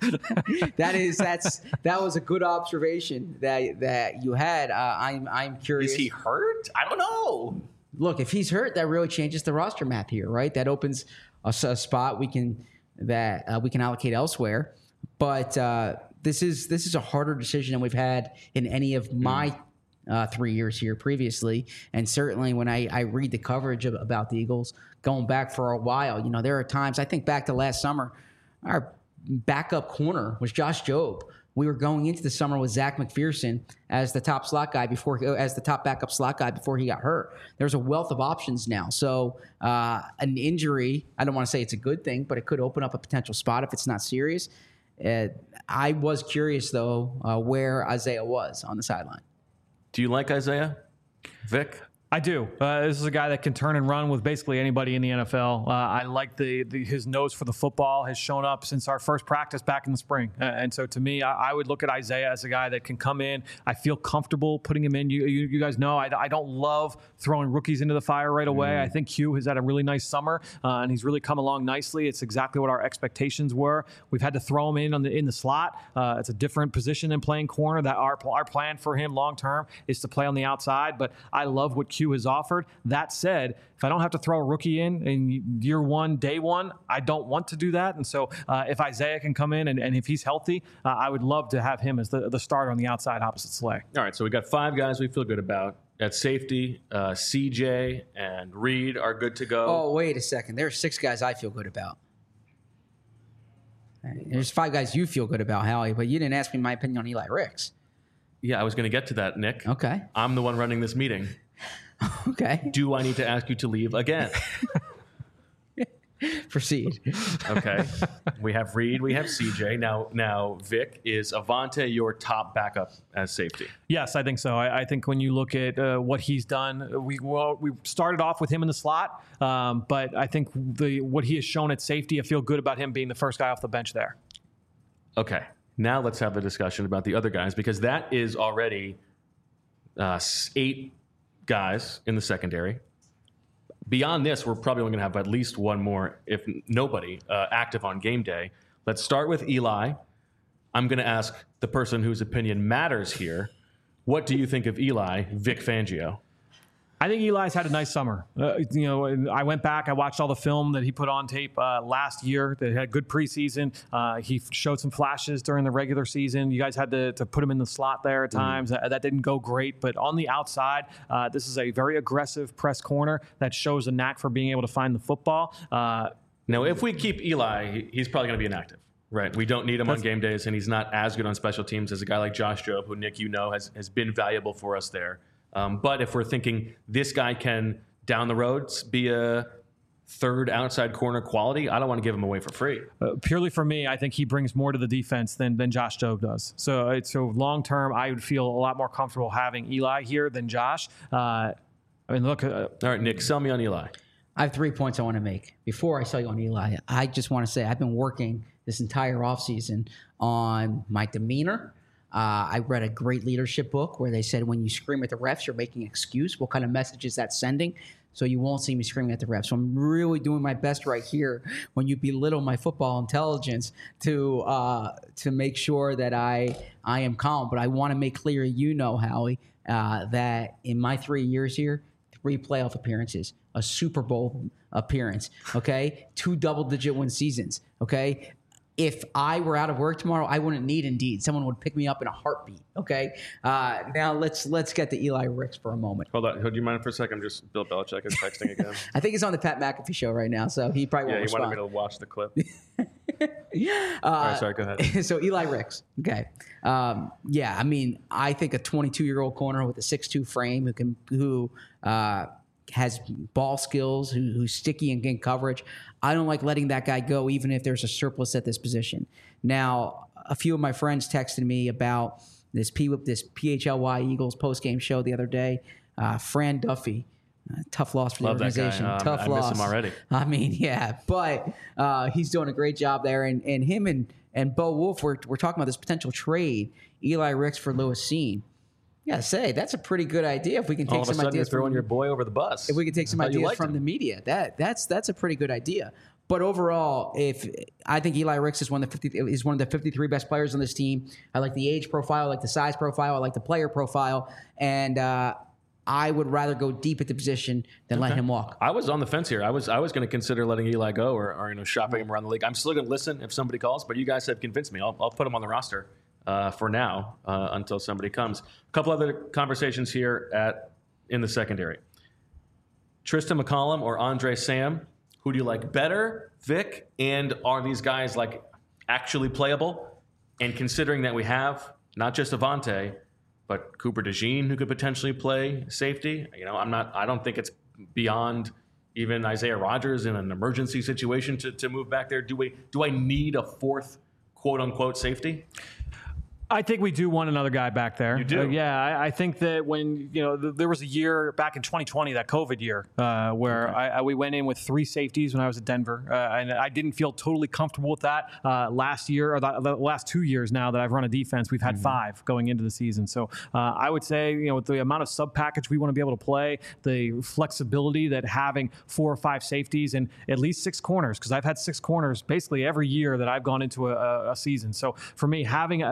was a good observation that you had. I'm curious. Is he hurt? I don't know. Look, if he's hurt, that really changes the roster map here, right? That opens a spot we can allocate elsewhere. But this is a harder decision than we've had in any of my 3 years here previously. And certainly when I read the coverage about the Eagles going back for a while, there are times, I think back to last summer, our backup corner was Josh Jobe. We were going into the summer with Zach McPherson as the top backup slot guy before he got hurt. There's a wealth of options now. So an injury, I don't want to say it's a good thing, but it could open up a potential spot if it's not serious. I was curious, though, where Isaiah was on the sideline. Do you like Isaiah? Vic? I do. This is a guy that can turn and run with basically anybody in the NFL. I like his nose for the football has shown up since our first practice back in the spring. And so to me, I would look at Isaiah as a guy that can come in. I feel comfortable putting him in. You guys know I don't love throwing rookies into the fire right away. I think Hugh has had a really nice summer, and he's really come along nicely. It's exactly what our expectations were. We've had to throw him in the slot. It's a different position than playing corner. That our plan for him long term is to play on the outside. But I love what Q Q has offered. That said, if I don't have to throw a rookie in year one, day one, I don't want to do that. And so if Isaiah can come in and if he's healthy, I would love to have him as the starter on the outside opposite Slay. All right, so we got 5 guys we feel good about. At safety, CJ and Reed are good to go. Oh, wait a second. There are 6 guys I feel good about. There's 5 guys you feel good about, Howie, but you didn't ask me my opinion on Eli Ricks. Yeah, I was going to get to that, Nick. Okay. I'm the one running this meeting. Okay. Do I need to ask you to leave again? Proceed. Okay. We have Reed. We have CJ. Now, Vic, is Avonte your top backup as safety? Yes, I think so. I think when you look at what he's done, we started off with him in the slot, but I think what he has shown at safety, I feel good about him being the first guy off the bench there. Okay. Now let's have the discussion about the other guys, because that is already 8 guys in the secondary. Beyond this, we're probably only going to have at least one more, if nobody, active on game day. Let's start with Eli. I'm going to ask the person whose opinion matters here. What do you think of Eli, Vic Fangio? I think Eli's had a nice summer. I went back, I watched all the film that he put on tape last year that had a good preseason. He showed some flashes during the regular season. You guys had to put him in the slot there at times. That didn't go great. But on the outside, this is a very aggressive press corner that shows a knack for being able to find the football. Now, if we keep Eli, he's probably going to be inactive. Right. We don't need him on game days, and he's not as good on special teams as a guy like Josh Jobe, who, Nick, has been valuable for us there. But if we're thinking this guy can, down the road, be a third outside corner quality, I don't want to give him away for free. Purely for me, I think he brings more to the defense than Josh Jobe does. So long term, I would feel a lot more comfortable having Eli here than Josh. Look. All right, Nick, sell me on Eli. I have 3 points I want to make. Before I sell you on Eli, I just want to say I've been working this entire offseason on my demeanor. I read a great leadership book where they said when you scream at the refs, you're making an excuse. What kind of message is that sending? So you won't see me screaming at the refs. So I'm really doing my best right here when you belittle my football intelligence to make sure that I am calm. But I want to make clear, Howie, that in my 3 years here, 3 playoff appearances, a Super Bowl appearance, okay, 2 double-digit win seasons, okay. If I were out of work tomorrow, I wouldn't need Indeed. Someone would pick me up in a heartbeat. Okay. Now let's get to Eli Ricks for a moment. Hold on. Do you mind for a second? Just Bill Belichick is texting again. I think he's on the Pat McAfee show right now, so he probably won't respond. Yeah, he wanted me to watch the clip. All right, sorry. Go ahead. So Eli Ricks. Okay. I think a 22-year-old corner with a 6'2" frame who has ball skills, who's sticky and in coverage. I don't like letting that guy go, even if there's a surplus at this position. Now, a few of my friends texted me about this PHLY Eagles postgame show the other day. Fran Duffy, tough loss for the organization. Tough loss. I miss him already. I mean, yeah, but he's doing a great job there. And him and Bo Wolf, we're talking about this potential trade, Eli Ricks for Lewis Cine. Yeah, that's a pretty good idea. If we can take some ideas, you're throwing your boy over the bus. If we can take some ideas from the media, that's a pretty good idea. But overall, I think Eli Ricks is one of the 53 best players on this team. I like the age profile, I like the size profile, I like the player profile, and I would rather go deep at the position than let him walk. I was on the fence here. I was going to consider letting Eli go or shopping him around the league. I'm still going to listen if somebody calls, but you guys have convinced me. I'll put him on the roster. For now, until somebody comes. A couple other conversations here in the secondary. Tristan McCollum or Andre Sam, who do you like better, Vic? And are these guys actually playable? And considering that we have not just Avonte, but Cooper DeJean, who could potentially play safety. I don't think it's beyond even Isaiah Rodgers in an emergency situation to move back there. Do I need a fourth quote unquote safety? I think we do want another guy back there. You do? I think that when, there was a year back in 2020, that COVID year, where we went in with 3 safeties when I was at Denver. And I didn't feel totally comfortable with that last year, or the last 2 years now that I've run a defense, we've had 5 going into the season. So I would say, with the amount of sub package we want to be able to play, the flexibility that having 4 or 5 safeties and at least 6 corners, because I've had 6 corners basically every year that I've gone into a season. So for me, having a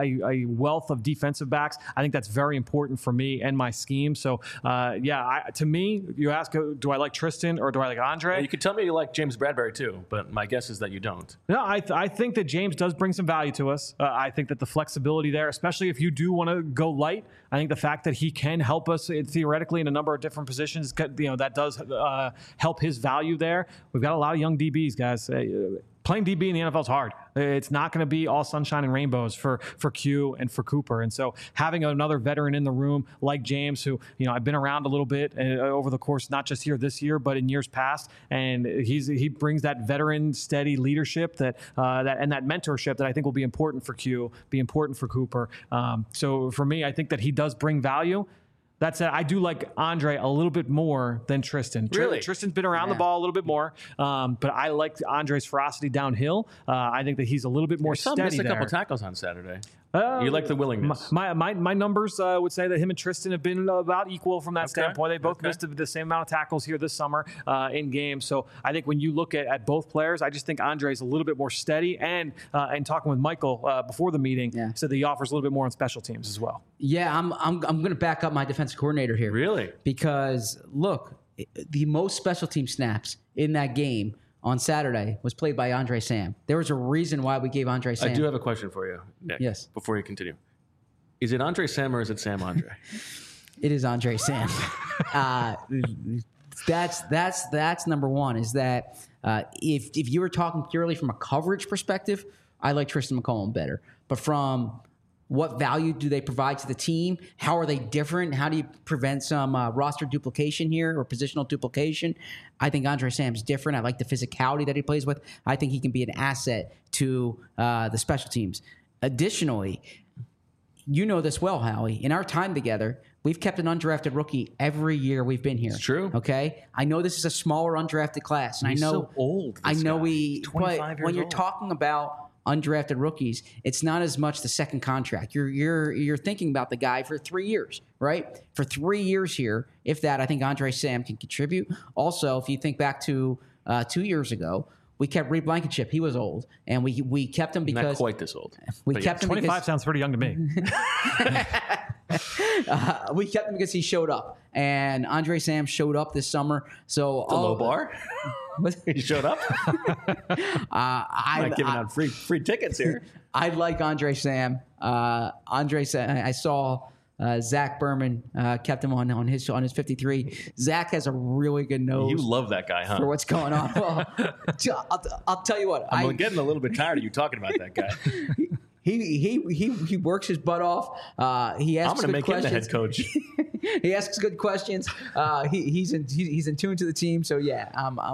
a wealth of defensive backs. I think that's very important for me and my scheme. So, to me, you ask, do I like Tristan or do I like Andre? You could tell me you like James Bradbury too, but my guess is that you don't. No, I think that James does bring some value to us. I think that the flexibility there, especially if you do want to go light, I think the fact that he can help us theoretically in a number of different positions, that does help his value there. We've got a lot of young DBs, guys. Playing DB in the NFL is hard. It's not going to be all sunshine and rainbows for Q and for Cooper. And so having another veteran in the room like James, who, I've been around a little bit over the course, not just here this year, but in years past. And he brings that veteran steady leadership that mentorship that I think will be important for Q, be important for Cooper. So for me, I think that he does bring value. That said, I do like Andre a little bit more than Tristan. Really? Tristan's been around the ball a little bit more, but I like Andre's ferocity downhill. I think that he's a little bit more steady there. Missed a couple tackles on Saturday. You like the willingness. My numbers would say that him and Tristan have been about equal from that standpoint. They both missed the same amount of tackles here this summer in games. So I think when you look at both players, I just think Andre's a little bit more steady. And talking with Michael before the meeting, said that he offers a little bit more on special teams as well. Yeah, I'm going to back up my defensive coordinator here. Really? Because look, the most special team snaps in that game on Saturday was played by Andre Sam. There was a reason why we gave Andre Sam. I do have a question for you, Nick. Yes. Before you continue. Is it Andre Sam or is it Sam Andre? It is Andre Sam. That's number one, is that if you were talking purely from a coverage perspective, I like Tristan McCollum better. But from what value do they provide to the team? How are they different? How do you prevent some roster duplication here or positional duplication? I think Andre Sam's different. I like the physicality that he plays with. I think he can be an asset to the special teams. Additionally, you know this well, Howie. In our time together, we've kept an undrafted rookie every year we've been here. It's true. Okay? I know this is a smaller undrafted class. And He's I know so old. I know He's 25 but years when you're old. talking about undrafted rookies, it's not as much the second contract. You're thinking about the guy for 3 years, right? For 3 years here, if that, I think Andre Sam can contribute. Also, if you think back to 2 years ago, we kept Reed Blankenship. He was old, and we kept him because Not quite this old. we But kept him 25 because sounds pretty young to me. we kept him because he showed up, and Andre Sam showed up this summer. So The low bar? He showed up? I'm not giving out free tickets here. I like Andre Sam. Andre Sam. I saw Zach Berman kept him on his 53. Zach has a really good nose. You love that guy, huh? For what's going on. Well, I'll tell you what. I'm getting a little bit tired of you talking about that guy. He works his butt off. He asks I'm going to good make him the questions. head coach. He asks good questions. He's in tune to the team. So yeah,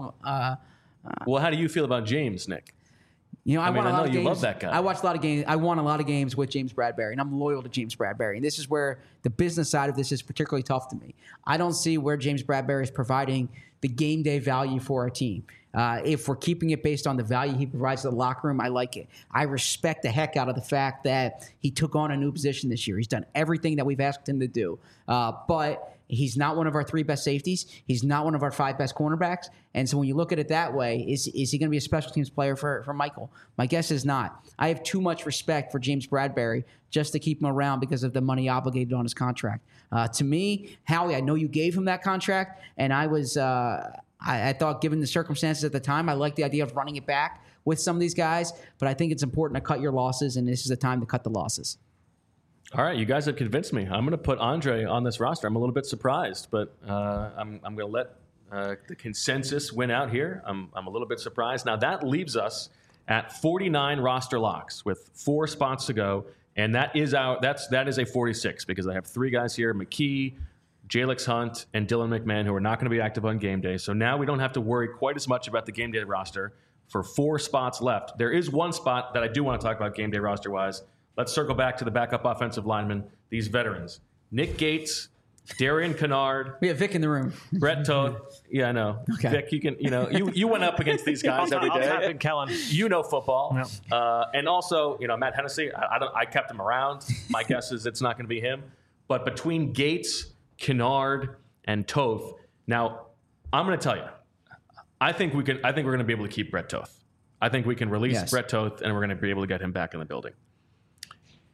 Well, how do you feel about James, Nick? I mean, won a I lot know of you games. love that guy. I watched a lot of games. I won a lot of games with James Bradbury, and I'm loyal to James Bradbury. And this is where the business side of this is particularly tough to me. I don't see where James Bradbury is providing the game day value for our team. If we're keeping it based on the value he provides to the locker room, I like it. I respect the heck out of the fact that he took on a new position this year. He's done everything that we've asked him to do. But he's not one of our 3 best safeties. He's not one of our 5 best cornerbacks. And so when you look at it that way, is he going to be a special teams player for Michael? My guess is not. I have too much respect for James Bradbury just to keep him around because of the money obligated on his contract. To me, Howie, I know you gave him that contract, and I was I thought, given the circumstances at the time, I like the idea of running it back with some of these guys, but I think it's important to cut your losses, and this is the time to cut the losses. All right, you guys have convinced me. I'm going to put Andre on this roster. I'm a little bit surprised, but I'm going to let the consensus win out here. I'm a little bit surprised. Now, that leaves us at 49 roster locks with 4 spots to go, and that is a 46 because I have 3 guys here, McKee, Jalix Hunt, and Dylan McMahon, who are not going to be active on game day. So now we don't have to worry quite as much about the game day roster for 4 spots left. There is one spot that I do want to talk about game day roster-wise. Let's circle back to the backup offensive linemen, these veterans. Nick Gates, Darian Kennard. We have Vic in the room. Brett Toth. Yeah, I know. Okay. Vic, you can, you went up against these guys every I'll tap day. in Kellen. You know football. Yeah. And also, Matt Hennessy, I kept him around. My guess is it's not going to be him. But between Gates, Kennard, and Toth, now I'm going to tell you, I think we're going to be able to keep Brett Toth. I think we can release Brett Toth, and we're going to be able to get him back in the building.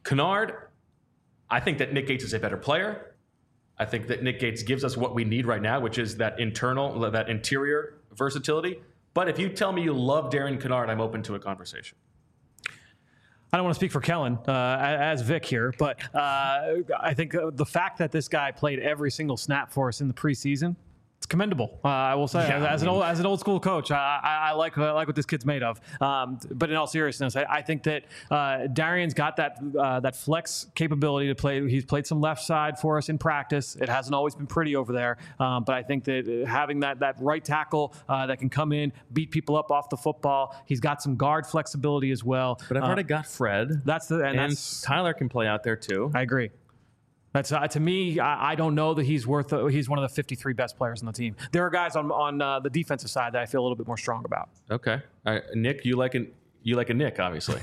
Kennard, I think that Nick Gates is a better player. I think that Nick Gates gives us what we need right now, which is that interior versatility. But if you tell me you love Darian Kennard, I'm open to a conversation. I don't want to speak for Kellen as Vic here, but I think the fact that this guy played every single snap for us in the preseason, it's commendable. I will say, as an old school coach, I like what this kid's made of. But in all seriousness, I think that Darian's got that flex capability to play. He's played some left side for us in practice. It hasn't always been pretty over there, but I think that having that right tackle that can come in, beat people up off the football. He's got some guard flexibility as well. But I've already got Fred. And Tyler can play out there too. I agree. That's to me. I don't know that he's one of the 53 best players on the team. There are guys on the defensive side that I feel a little bit more strong about. Okay, Nick, you like a Nick, obviously.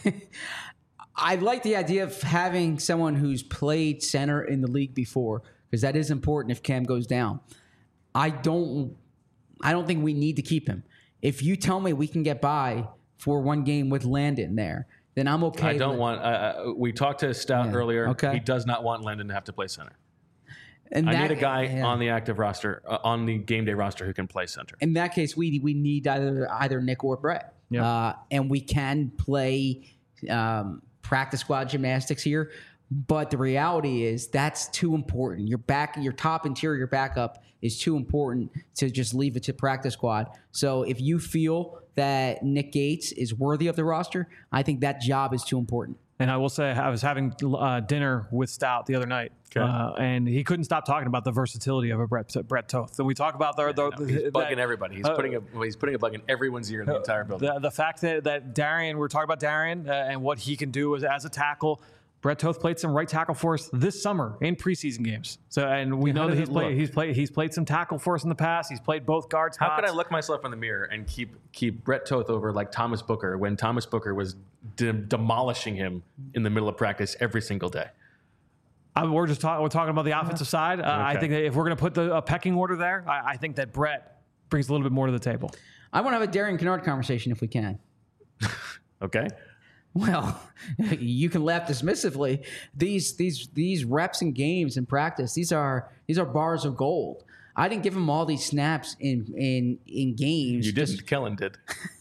I like the idea of having someone who's played center in the league before, because that is important if Cam goes down. I don't think we need to keep him. If you tell me we can get by for one game with Landon there, then I'm okay. I don't want. We talked to Stout earlier. Okay. He does not want Landon to have to play center. And I need a guy on the active roster, on the game day roster, who can play center. In that case, we need either Nick or Brett. Yep. And we can play practice squad gymnastics here. But the reality is that's too important. Your top interior backup is too important to just leave it to practice squad. So if you feel that Nick Gates is worthy of the roster, I think that job is too important. And I will say, I was having dinner with Stout the other night, and he couldn't stop talking about the versatility of a Brett Toth. And we talk about he's bugging everybody. He's putting a bug in everyone's ear in the entire building. The fact that Darian, we're talking about Darian and what he can do as a tackle. Brett Toth played some right tackle for us this summer in preseason games. So, and we know that he's played some tackle for us in the past. He's played both guard spots. How could I look myself in the mirror and keep Brett Toth over like Thomas Booker when Thomas Booker was demolishing him in the middle of practice every single day? We're talking about the offensive side. Okay. I think that if we're going to put a pecking order there, I think that Brett brings a little bit more to the table. I want to have a Darian Kennard conversation if we can. Okay. Well, you can laugh dismissively. These reps and games in practice, these are bars of gold. I didn't give him all these snaps in games. You didn't. Kellen did.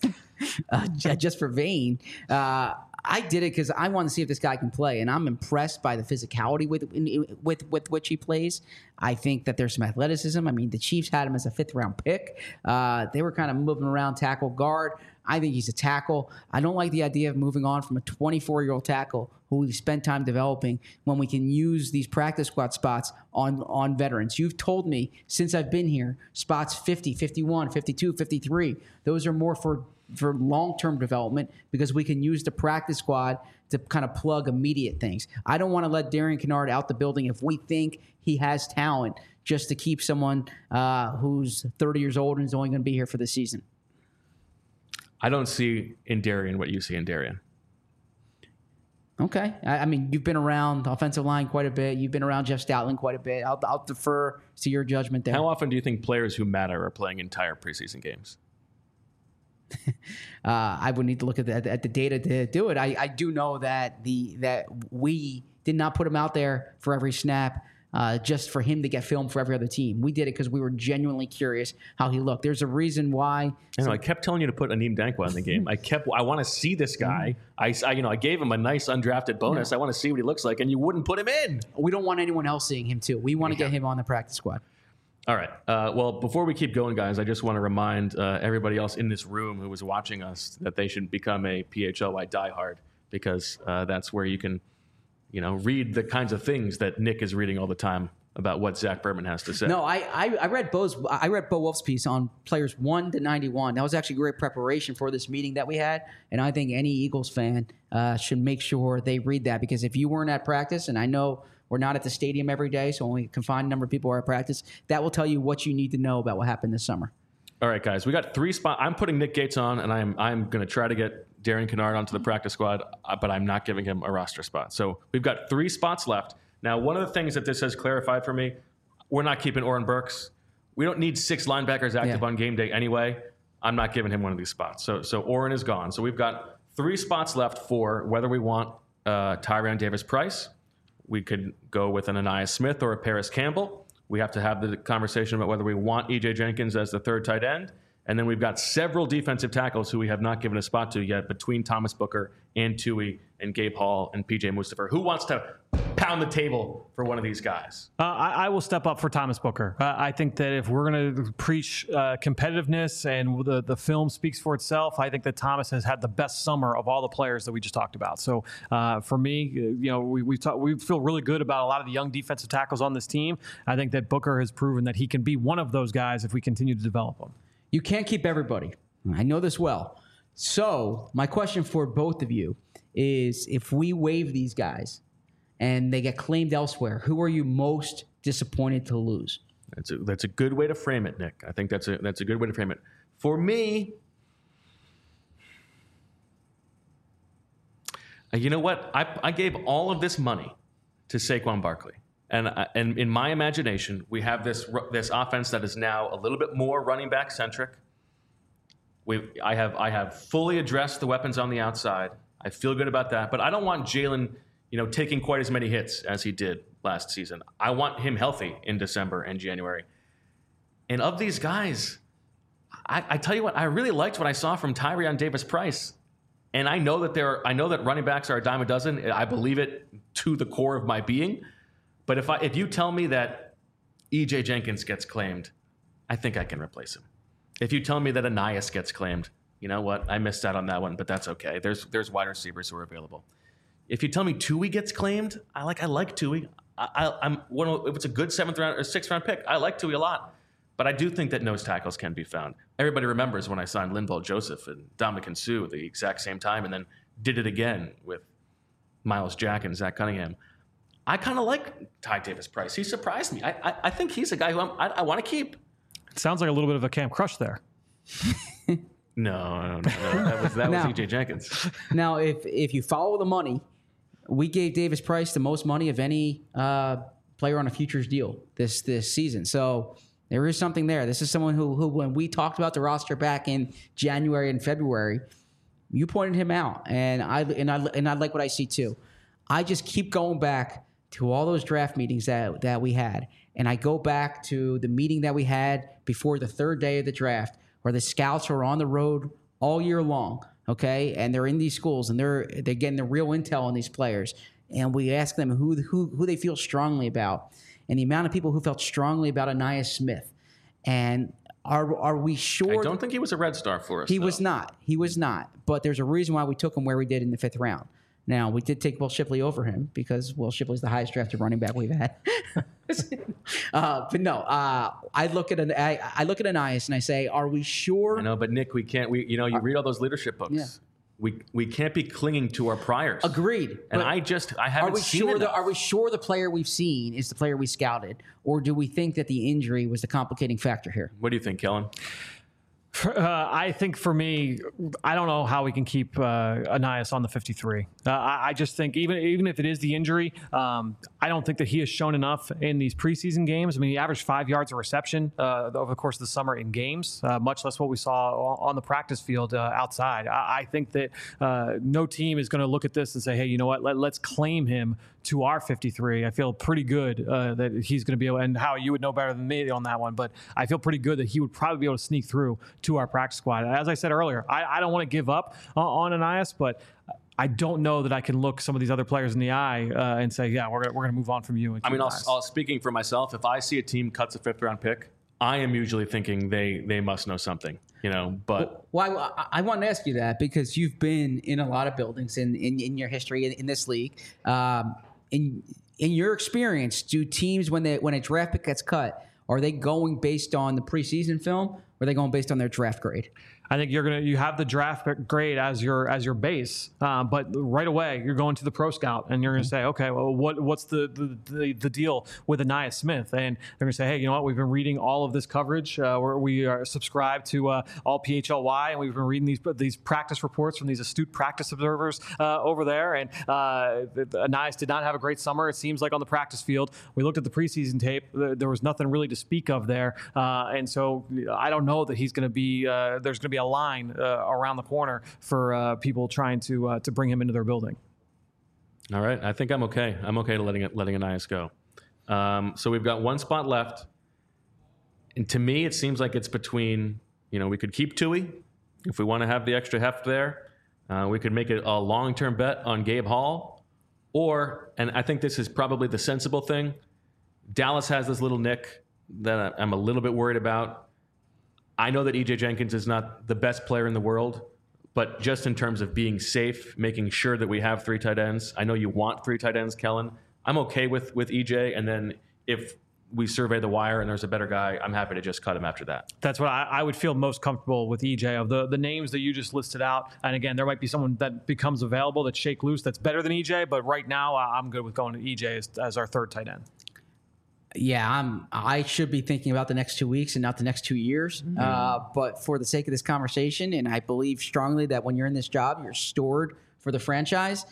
Just for Vane. I did it because I want to see if this guy can play, and I'm impressed by the physicality with which he plays. I think that there's some athleticism. I mean, the Chiefs had him as a 5th-round pick. They were kind of moving around tackle guard. I think he's a tackle. I don't like the idea of moving on from a 24-year-old tackle who we spent time developing when we can use these practice squad spots on veterans. You've told me since I've been here, spots 50, 51, 52, 53, those are more for long-term development because we can use the practice squad to kind of plug immediate things. I don't want to let Darian Kennard out the building if we think he has talent just to keep someone who's 30 years old and is only going to be here for the season. I don't see in Darian what you see in Darian. Okay. I mean, you've been around offensive line quite a bit. You've been around Jeff Stoutland quite a bit. I'll defer to your judgment there. How often do you think players who matter are playing entire preseason games? I would need to look at the data to do it. I do know that we did not put him out there for every snap just for him to get filmed for every other team. We did it because we were genuinely curious how he looked. There's a reason why. I kept telling you to put Aneem Dankwa in the game. I want to see this guy. I gave him a nice undrafted bonus. Yeah. I want to see what he looks like, and you wouldn't put him in. We don't want anyone else seeing him too. We want to get him on the practice squad. All right. Well, before we keep going, guys, I just want to remind everybody else in this room who was watching us that they should become a PHLY diehard because that's where you can, read the kinds of things that Nick is reading all the time about what Zach Berman has to say. No, I read Bo Wolf's piece on players 1 to 91. That was actually great preparation for this meeting that we had, and I think any Eagles fan should make sure they read that because if you weren't at practice, and I know we're not at the stadium every day, so only a confined number of people are at practice, that will tell you what you need to know about what happened this summer. All right, guys, we got 3 spots. I'm putting Nick Gates on, and I'm going to try to get Darian Kennard onto the practice squad, but I'm not giving him a roster spot. So we've got 3 spots left. Now, one of the things that this has clarified for me, we're not keeping Oren Burks. We don't need 6 linebackers active on game day anyway. I'm not giving him one of these spots. So Oren is gone. So we've got 3 spots left for whether we want Tyrion Davis-Price. We could go with an Ainias Smith or a Paris Campbell. We have to have the conversation about whether we want E.J. Jenkins as the third tight end. And then we've got several defensive tackles who we have not given a spot to yet between Thomas Booker and Tui and Gabe Hall and P.J. Mustipher. Who wants to pound the table for one of these guys? I will step up for Thomas Booker. I think that if we're going to preach competitiveness and the film speaks for itself, I think that Thomas has had the best summer of all the players that we just talked about. So for me, we feel really good about a lot of the young defensive tackles on this team. I think that Booker has proven that he can be one of those guys if we continue to develop him. You can't keep everybody. I know this well. So my question for both of you is, if we waive these guys and they get claimed elsewhere, who are you most disappointed to lose? That's a good way to frame it, Nick. I think that's a good way to frame it. For me, you know what? I gave all of this money to Saquon Barkley. And in my imagination, we have this offense that is now a little bit more running back centric. I have fully addressed the weapons on the outside. I feel good about that, but I don't want Jalen, taking quite as many hits as he did last season. I want him healthy in December and January. And of these guys, I tell you what, I really liked what I saw from Tyrion Davis-Price. And I know that running backs are a dime a dozen. I believe it to the core of my being. But if you tell me that E.J. Jenkins gets claimed, I think I can replace him. If you tell me that Ainias gets claimed, you know what? I missed out on that one, but that's okay. There's wide receivers who are available. If you tell me Tui gets claimed, I like Tui. If it's a good 7th round or 6th round pick, I like Tui a lot. But I do think that nose tackles can be found. Everybody remembers when I signed Linval Joseph and Ndamukong Suh at the exact same time, and then did it again with Myles Jack and Zach Cunningham. I kind of like Ty Davis-Price. He surprised me. I think he's a guy who I want to keep. It sounds like a little bit of a Camp Crush there. No. That was E.J. Jenkins. Now, if you follow the money, we gave Davis-Price the most money of any player on a futures deal this season. So there is something there. This is someone who when we talked about the roster back in January and February, you pointed him out, and I like what I see too. I just keep going back to all those draft meetings that we had. And I go back to the meeting that we had before the third day of the draft, where the scouts are on the road all year long, okay? And they're in these schools, and they're getting the real intel on these players. And we ask them who they feel strongly about. And the amount of people who felt strongly about Ainias Smith. And are we sure? I don't think he was a red star for us. He was not. But there's a reason why we took him where we did in the 5th round. Now, we did take Will Shipley over him because Will Shipley's the highest drafted running back we've had. But no, I look at Ainias and I say, are we sure? I know, but Nick, we can't. You read all those leadership books. Yeah. We can't be clinging to our priors. Agreed. And I haven't seen it. Are we sure the player we've seen is the player we scouted, or do we think that the injury was the complicating factor here? What do you think, Kellen? I think for me, I don't know how we can keep Ainias on the 53. I just think even if it is the injury, I don't think that he has shown enough in these preseason games. I mean, he averaged 5 yards a reception over the course of the summer in games, much less what we saw on the practice field outside. I think that no team is going to look at this and say, hey, you know what, let's claim him to our 53. I feel pretty good that he's going to be able, and Howie, you would know better than me on that one, but I feel pretty good that he would probably be able to sneak through to our practice squad. As I said earlier, I don't want to give up on Ainias, but I don't know that I can look some of these other players in the eye and say, yeah, we're going to move on from you. I mean, speaking for myself, if I see a team cuts a 5th round pick, I am usually thinking they must know something, but. Well, I want to ask you that because you've been in a lot of buildings in your history in this league. In your experience, do teams, when a draft pick gets cut, are they going based on the preseason film, or are they going based on their draft grade? I think you have the draft grade as your base, but right away you're going to the pro scout and you're going to say, okay, well, what's the deal with Ainias Smith? And they're going to say, hey, you know what? We've been reading all of this coverage. We are subscribed to all PHLY, and we've been reading these practice reports from these astute practice observers over there. And Ainias did not have a great summer. It seems like on the practice field. We looked at the preseason tape. There was nothing really to speak of there, and so I don't know that he's going to be. There's going to be a line around the corner for people trying to bring him into their building. All right. I think I'm okay. I'm okay to letting Ainias go. So we've got one spot left. And to me, it seems like it's between, we could keep Tui if we want to have the extra heft there. We could make it a long-term bet on Gabe Hall. Or, and I think this is probably the sensible thing, Dallas has this little nick that I'm a little bit worried about. I know that E.J. Jenkins is not the best player in the world, but just in terms of being safe, making sure that we have 3 tight ends. I know you want 3 tight ends, Kellen. I'm okay with EJ, and then if we survey the wire and there's a better guy, I'm happy to just cut him after that. That's what I would feel most comfortable with EJ. Of the names that you just listed out, and again, there might be someone that becomes available that's shake loose that's better than EJ, but right now I'm good with going to EJ as our 3rd tight end. Yeah, I should be thinking about the next 2 weeks and not the next 2 years. But for the sake of this conversation, and I believe strongly that when you're in this job, you're stored for the franchise.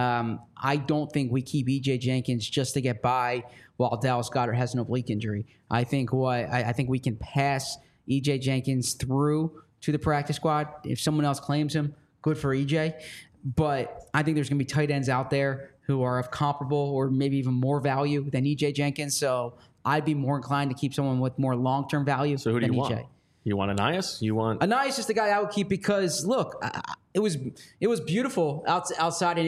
I don't think we keep E.J. Jenkins just to get by while Dallas Goedert has an oblique injury. I think we can pass E.J. Jenkins through to the practice squad. If someone else claims him, good for E.J. But I think there's going to be tight ends out there who are of comparable or maybe even more value than E.J. Jenkins. So I'd be more inclined to keep someone with more long-term value so who do than you E.J. want? You want Ainias? Ainias is the guy I would keep because, look, it was beautiful outside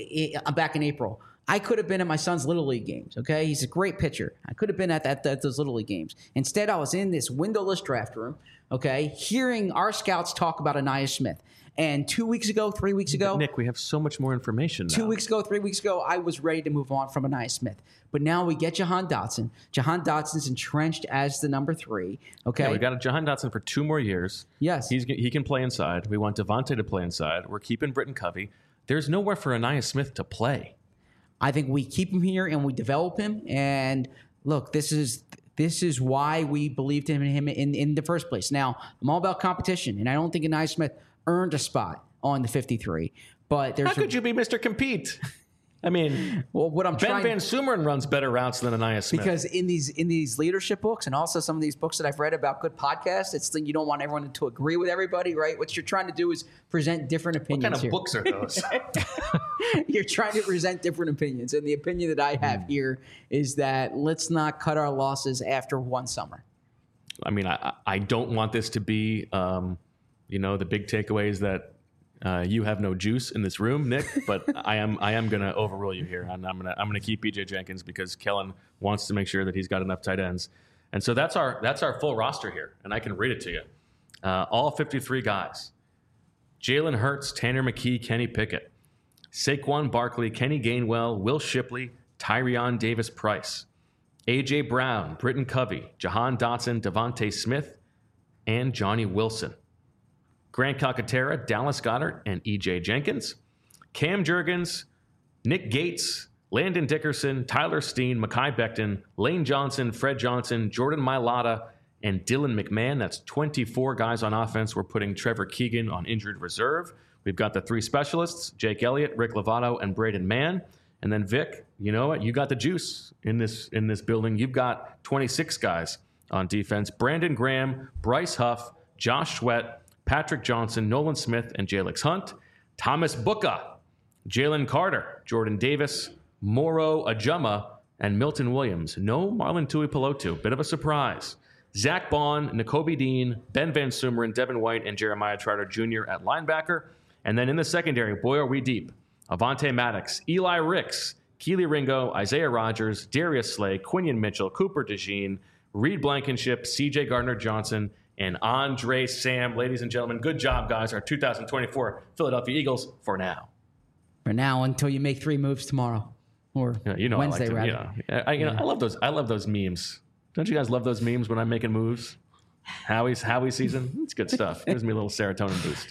back in April. I could have been at my son's Little League games, okay? He's a great pitcher. I could have been at those Little League games. Instead, I was in this windowless draft room, okay, hearing our scouts talk about Ainias Smith. And 3 weeks ago, Nick, we have so much more information now. 2 weeks ago, 3 weeks ago, I was ready to move on from Ainias Smith. But now we get Jahan Dotson. Jahan Dotson's entrenched as the number 3. Okay, yeah, we got Jahan Dotson for 2 more years. Yes, he can play inside. We want Devontae to play inside. We're keeping Britton Covey. There's nowhere for Ainias Smith to play. I think we keep him here and we develop him. And look, this is why we believed in him in the first place. Now, I'm all about competition, and I don't think Ainias Smith earned a spot on the 53. But how could you be Mr. Compete? I mean, well, what I'm Ben Van Sumeren runs better routes than Ainias Smith. Because in these leadership books and also some of these books that I've read about good podcasts, it's you don't want everyone to agree with everybody, right? What you're trying to do is present different opinions. What kind of books are those? You're trying to present different opinions, and the opinion that I have here is that let's not cut our losses after one summer. I mean, I don't want this to be, the big takeaways that. You have no juice in this room, Nick, but I am going to overrule you here, and I'm going to keep E.J. Jenkins because Kellen wants to make sure that he's got enough tight ends, and so that's our full roster here, and I can read it to you. All 53 guys: Jalen Hurts, Tanner McKee, Kenny Pickett, Saquon Barkley, Kenny Gainwell, Will Shipley, Tyrion Davis-Price, A.J. Brown, Britton Covey, Jahan Dotson, Devontae Smith, and Johnny Wilson. Grant Calcaterra, Dallas Goedert, and E.J. Jenkins. Cam Jurgens, Nick Gates, Landon Dickerson, Tyler Steen, Mekhi Becton, Lane Johnson, Fred Johnson, Jordan Mailata, and Dylan McMahon. That's 24 guys on offense. We're putting Trevor Keegan on injured reserve. We've got the 3 specialists, Jake Elliott, Rick Lovato, and Braden Mann. And then Vic, you know what? You got the juice in this building. You've got 26 guys on defense. Brandon Graham, Bryce Huff, Josh Sweat, Patrick Johnson, Nolan Smith, and Jalix Hunt. Thomas Bucca, Jalen Carter, Jordan Davis, Moro Ajuma, and Milton Williams. No Marlon Tuipulotu. Bit of a surprise. Zach Bond, Nakobe Dean, Ben Van Sumeren, Devin White, and Jeremiah Trotter Jr. at linebacker. And then in the secondary, boy, are we deep. Avonte Maddox, Eli Ricks, Keely Ringo, Isaiah Rogers, Darius Slay, Quinion Mitchell, Cooper DeJean, Reed Blankenship, C.J. Gardner-Johnson, and Andre Sam. Ladies and gentlemen, good job, guys. Our 2024 Philadelphia Eagles for now. For now, until you make 3 moves tomorrow or Wednesday, rather. I love those. I love those memes. Don't you guys love those memes when I'm making moves? Howie season. It's good stuff. Gives me a little serotonin boost.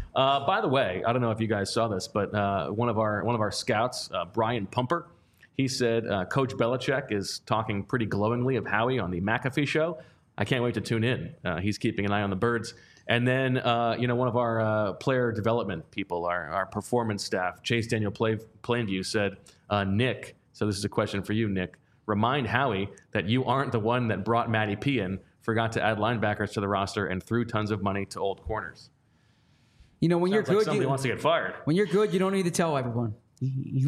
By the way, I don't know if you guys saw this, but one of our scouts, Brian Pumper, he said Coach Belichick is talking pretty glowingly of Howie on the McAfee show. I can't wait to tune in. He's keeping an eye on the birds. And then, one of our player development people, our performance staff, Chase Daniel Plainview, said, Nick, so this is a question for you, Nick, remind Howie that you aren't the one that brought Matty P in, forgot to add linebackers to the roster, and threw tons of money to old corners. When Sounds you're like good, somebody wants to get fired. When you're good, you don't need to tell everyone. Look,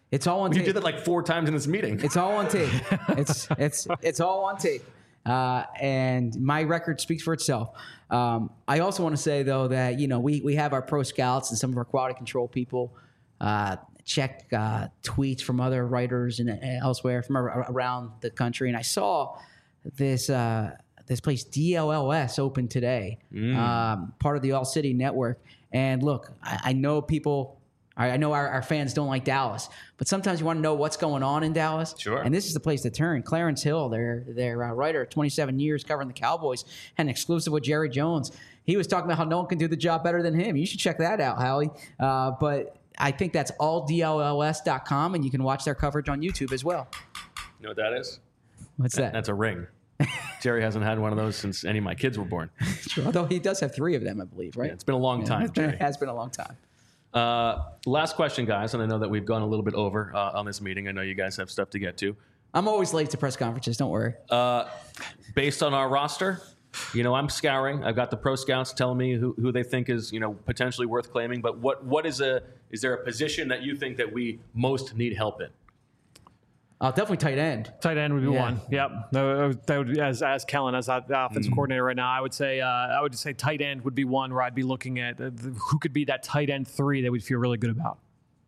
It's all on You tape. did that like 4 times in this meeting. It's all on tape. It's all on tape. And my record speaks for itself. I also want to say, though, that, we have our pro scouts and some of our quality control people check tweets from other writers and elsewhere from around the country. And I saw this place, DLLS, open today, part of the All City Network. And look, I know people... I know our fans don't like Dallas, but sometimes you want to know what's going on in Dallas. Sure. And this is the place to turn. Clarence Hill, their writer, 27 years covering the Cowboys, had an exclusive with Jerry Jones. He was talking about how no one can do the job better than him. You should check that out, Howie. But I think that's alldlls.com, and you can watch their coverage on YouTube as well. You know what that is? What's that? That's a ring. Jerry hasn't had one of those since any of my kids were born. True. Although he does have 3 of them, I believe, right? Yeah, it's been a long time, Jerry. It has been a long time. Last question, guys, and I know that we've gone a little bit over on this meeting. I know you guys have stuff to get to. I'm always late to press conferences. Don't worry. Based on our roster, I'm scouring. I've got the pro scouts telling me who they think is, potentially worth claiming. But is there a position that you think that we most need help in? Definitely tight end. Tight end would be one. Yep. That would be, as Kellen, as the offensive coordinator right now, I would say tight end would be one where I'd be looking at who could be that tight end 3 that we'd feel really good about.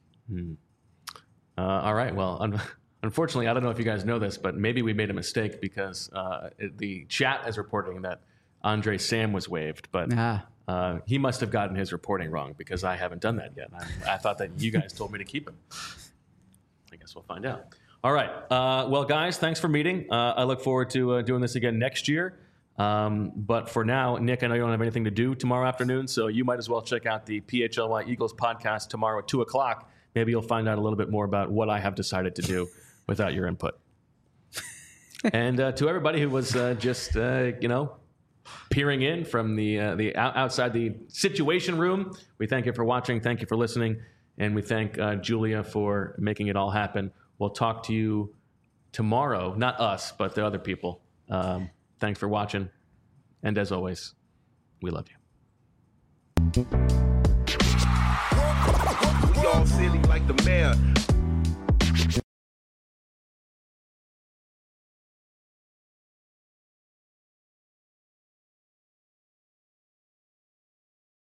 All right. Well, unfortunately, I don't know if you guys know this, but maybe we made a mistake because the chat is reporting that Andre Sam was waived, but he must have gotten his reporting wrong because I haven't done that yet. I thought that you guys told me to keep him. I guess we'll find out. All right. Well, guys, thanks for meeting. I look forward to doing this again next year. But for now, Nick, I know you don't have anything to do tomorrow afternoon, so you might as well check out the PHLY Eagles podcast tomorrow at 2 o'clock. Maybe you'll find out a little bit more about what I have decided to do without your input. And to everybody who was just, peering in from the outside the Situation Room, we thank you for watching. Thank you for listening. And we thank Julia for making it all happen. We'll talk to you tomorrow. Not us, but the other people. Thanks for watching. And as always, we love you.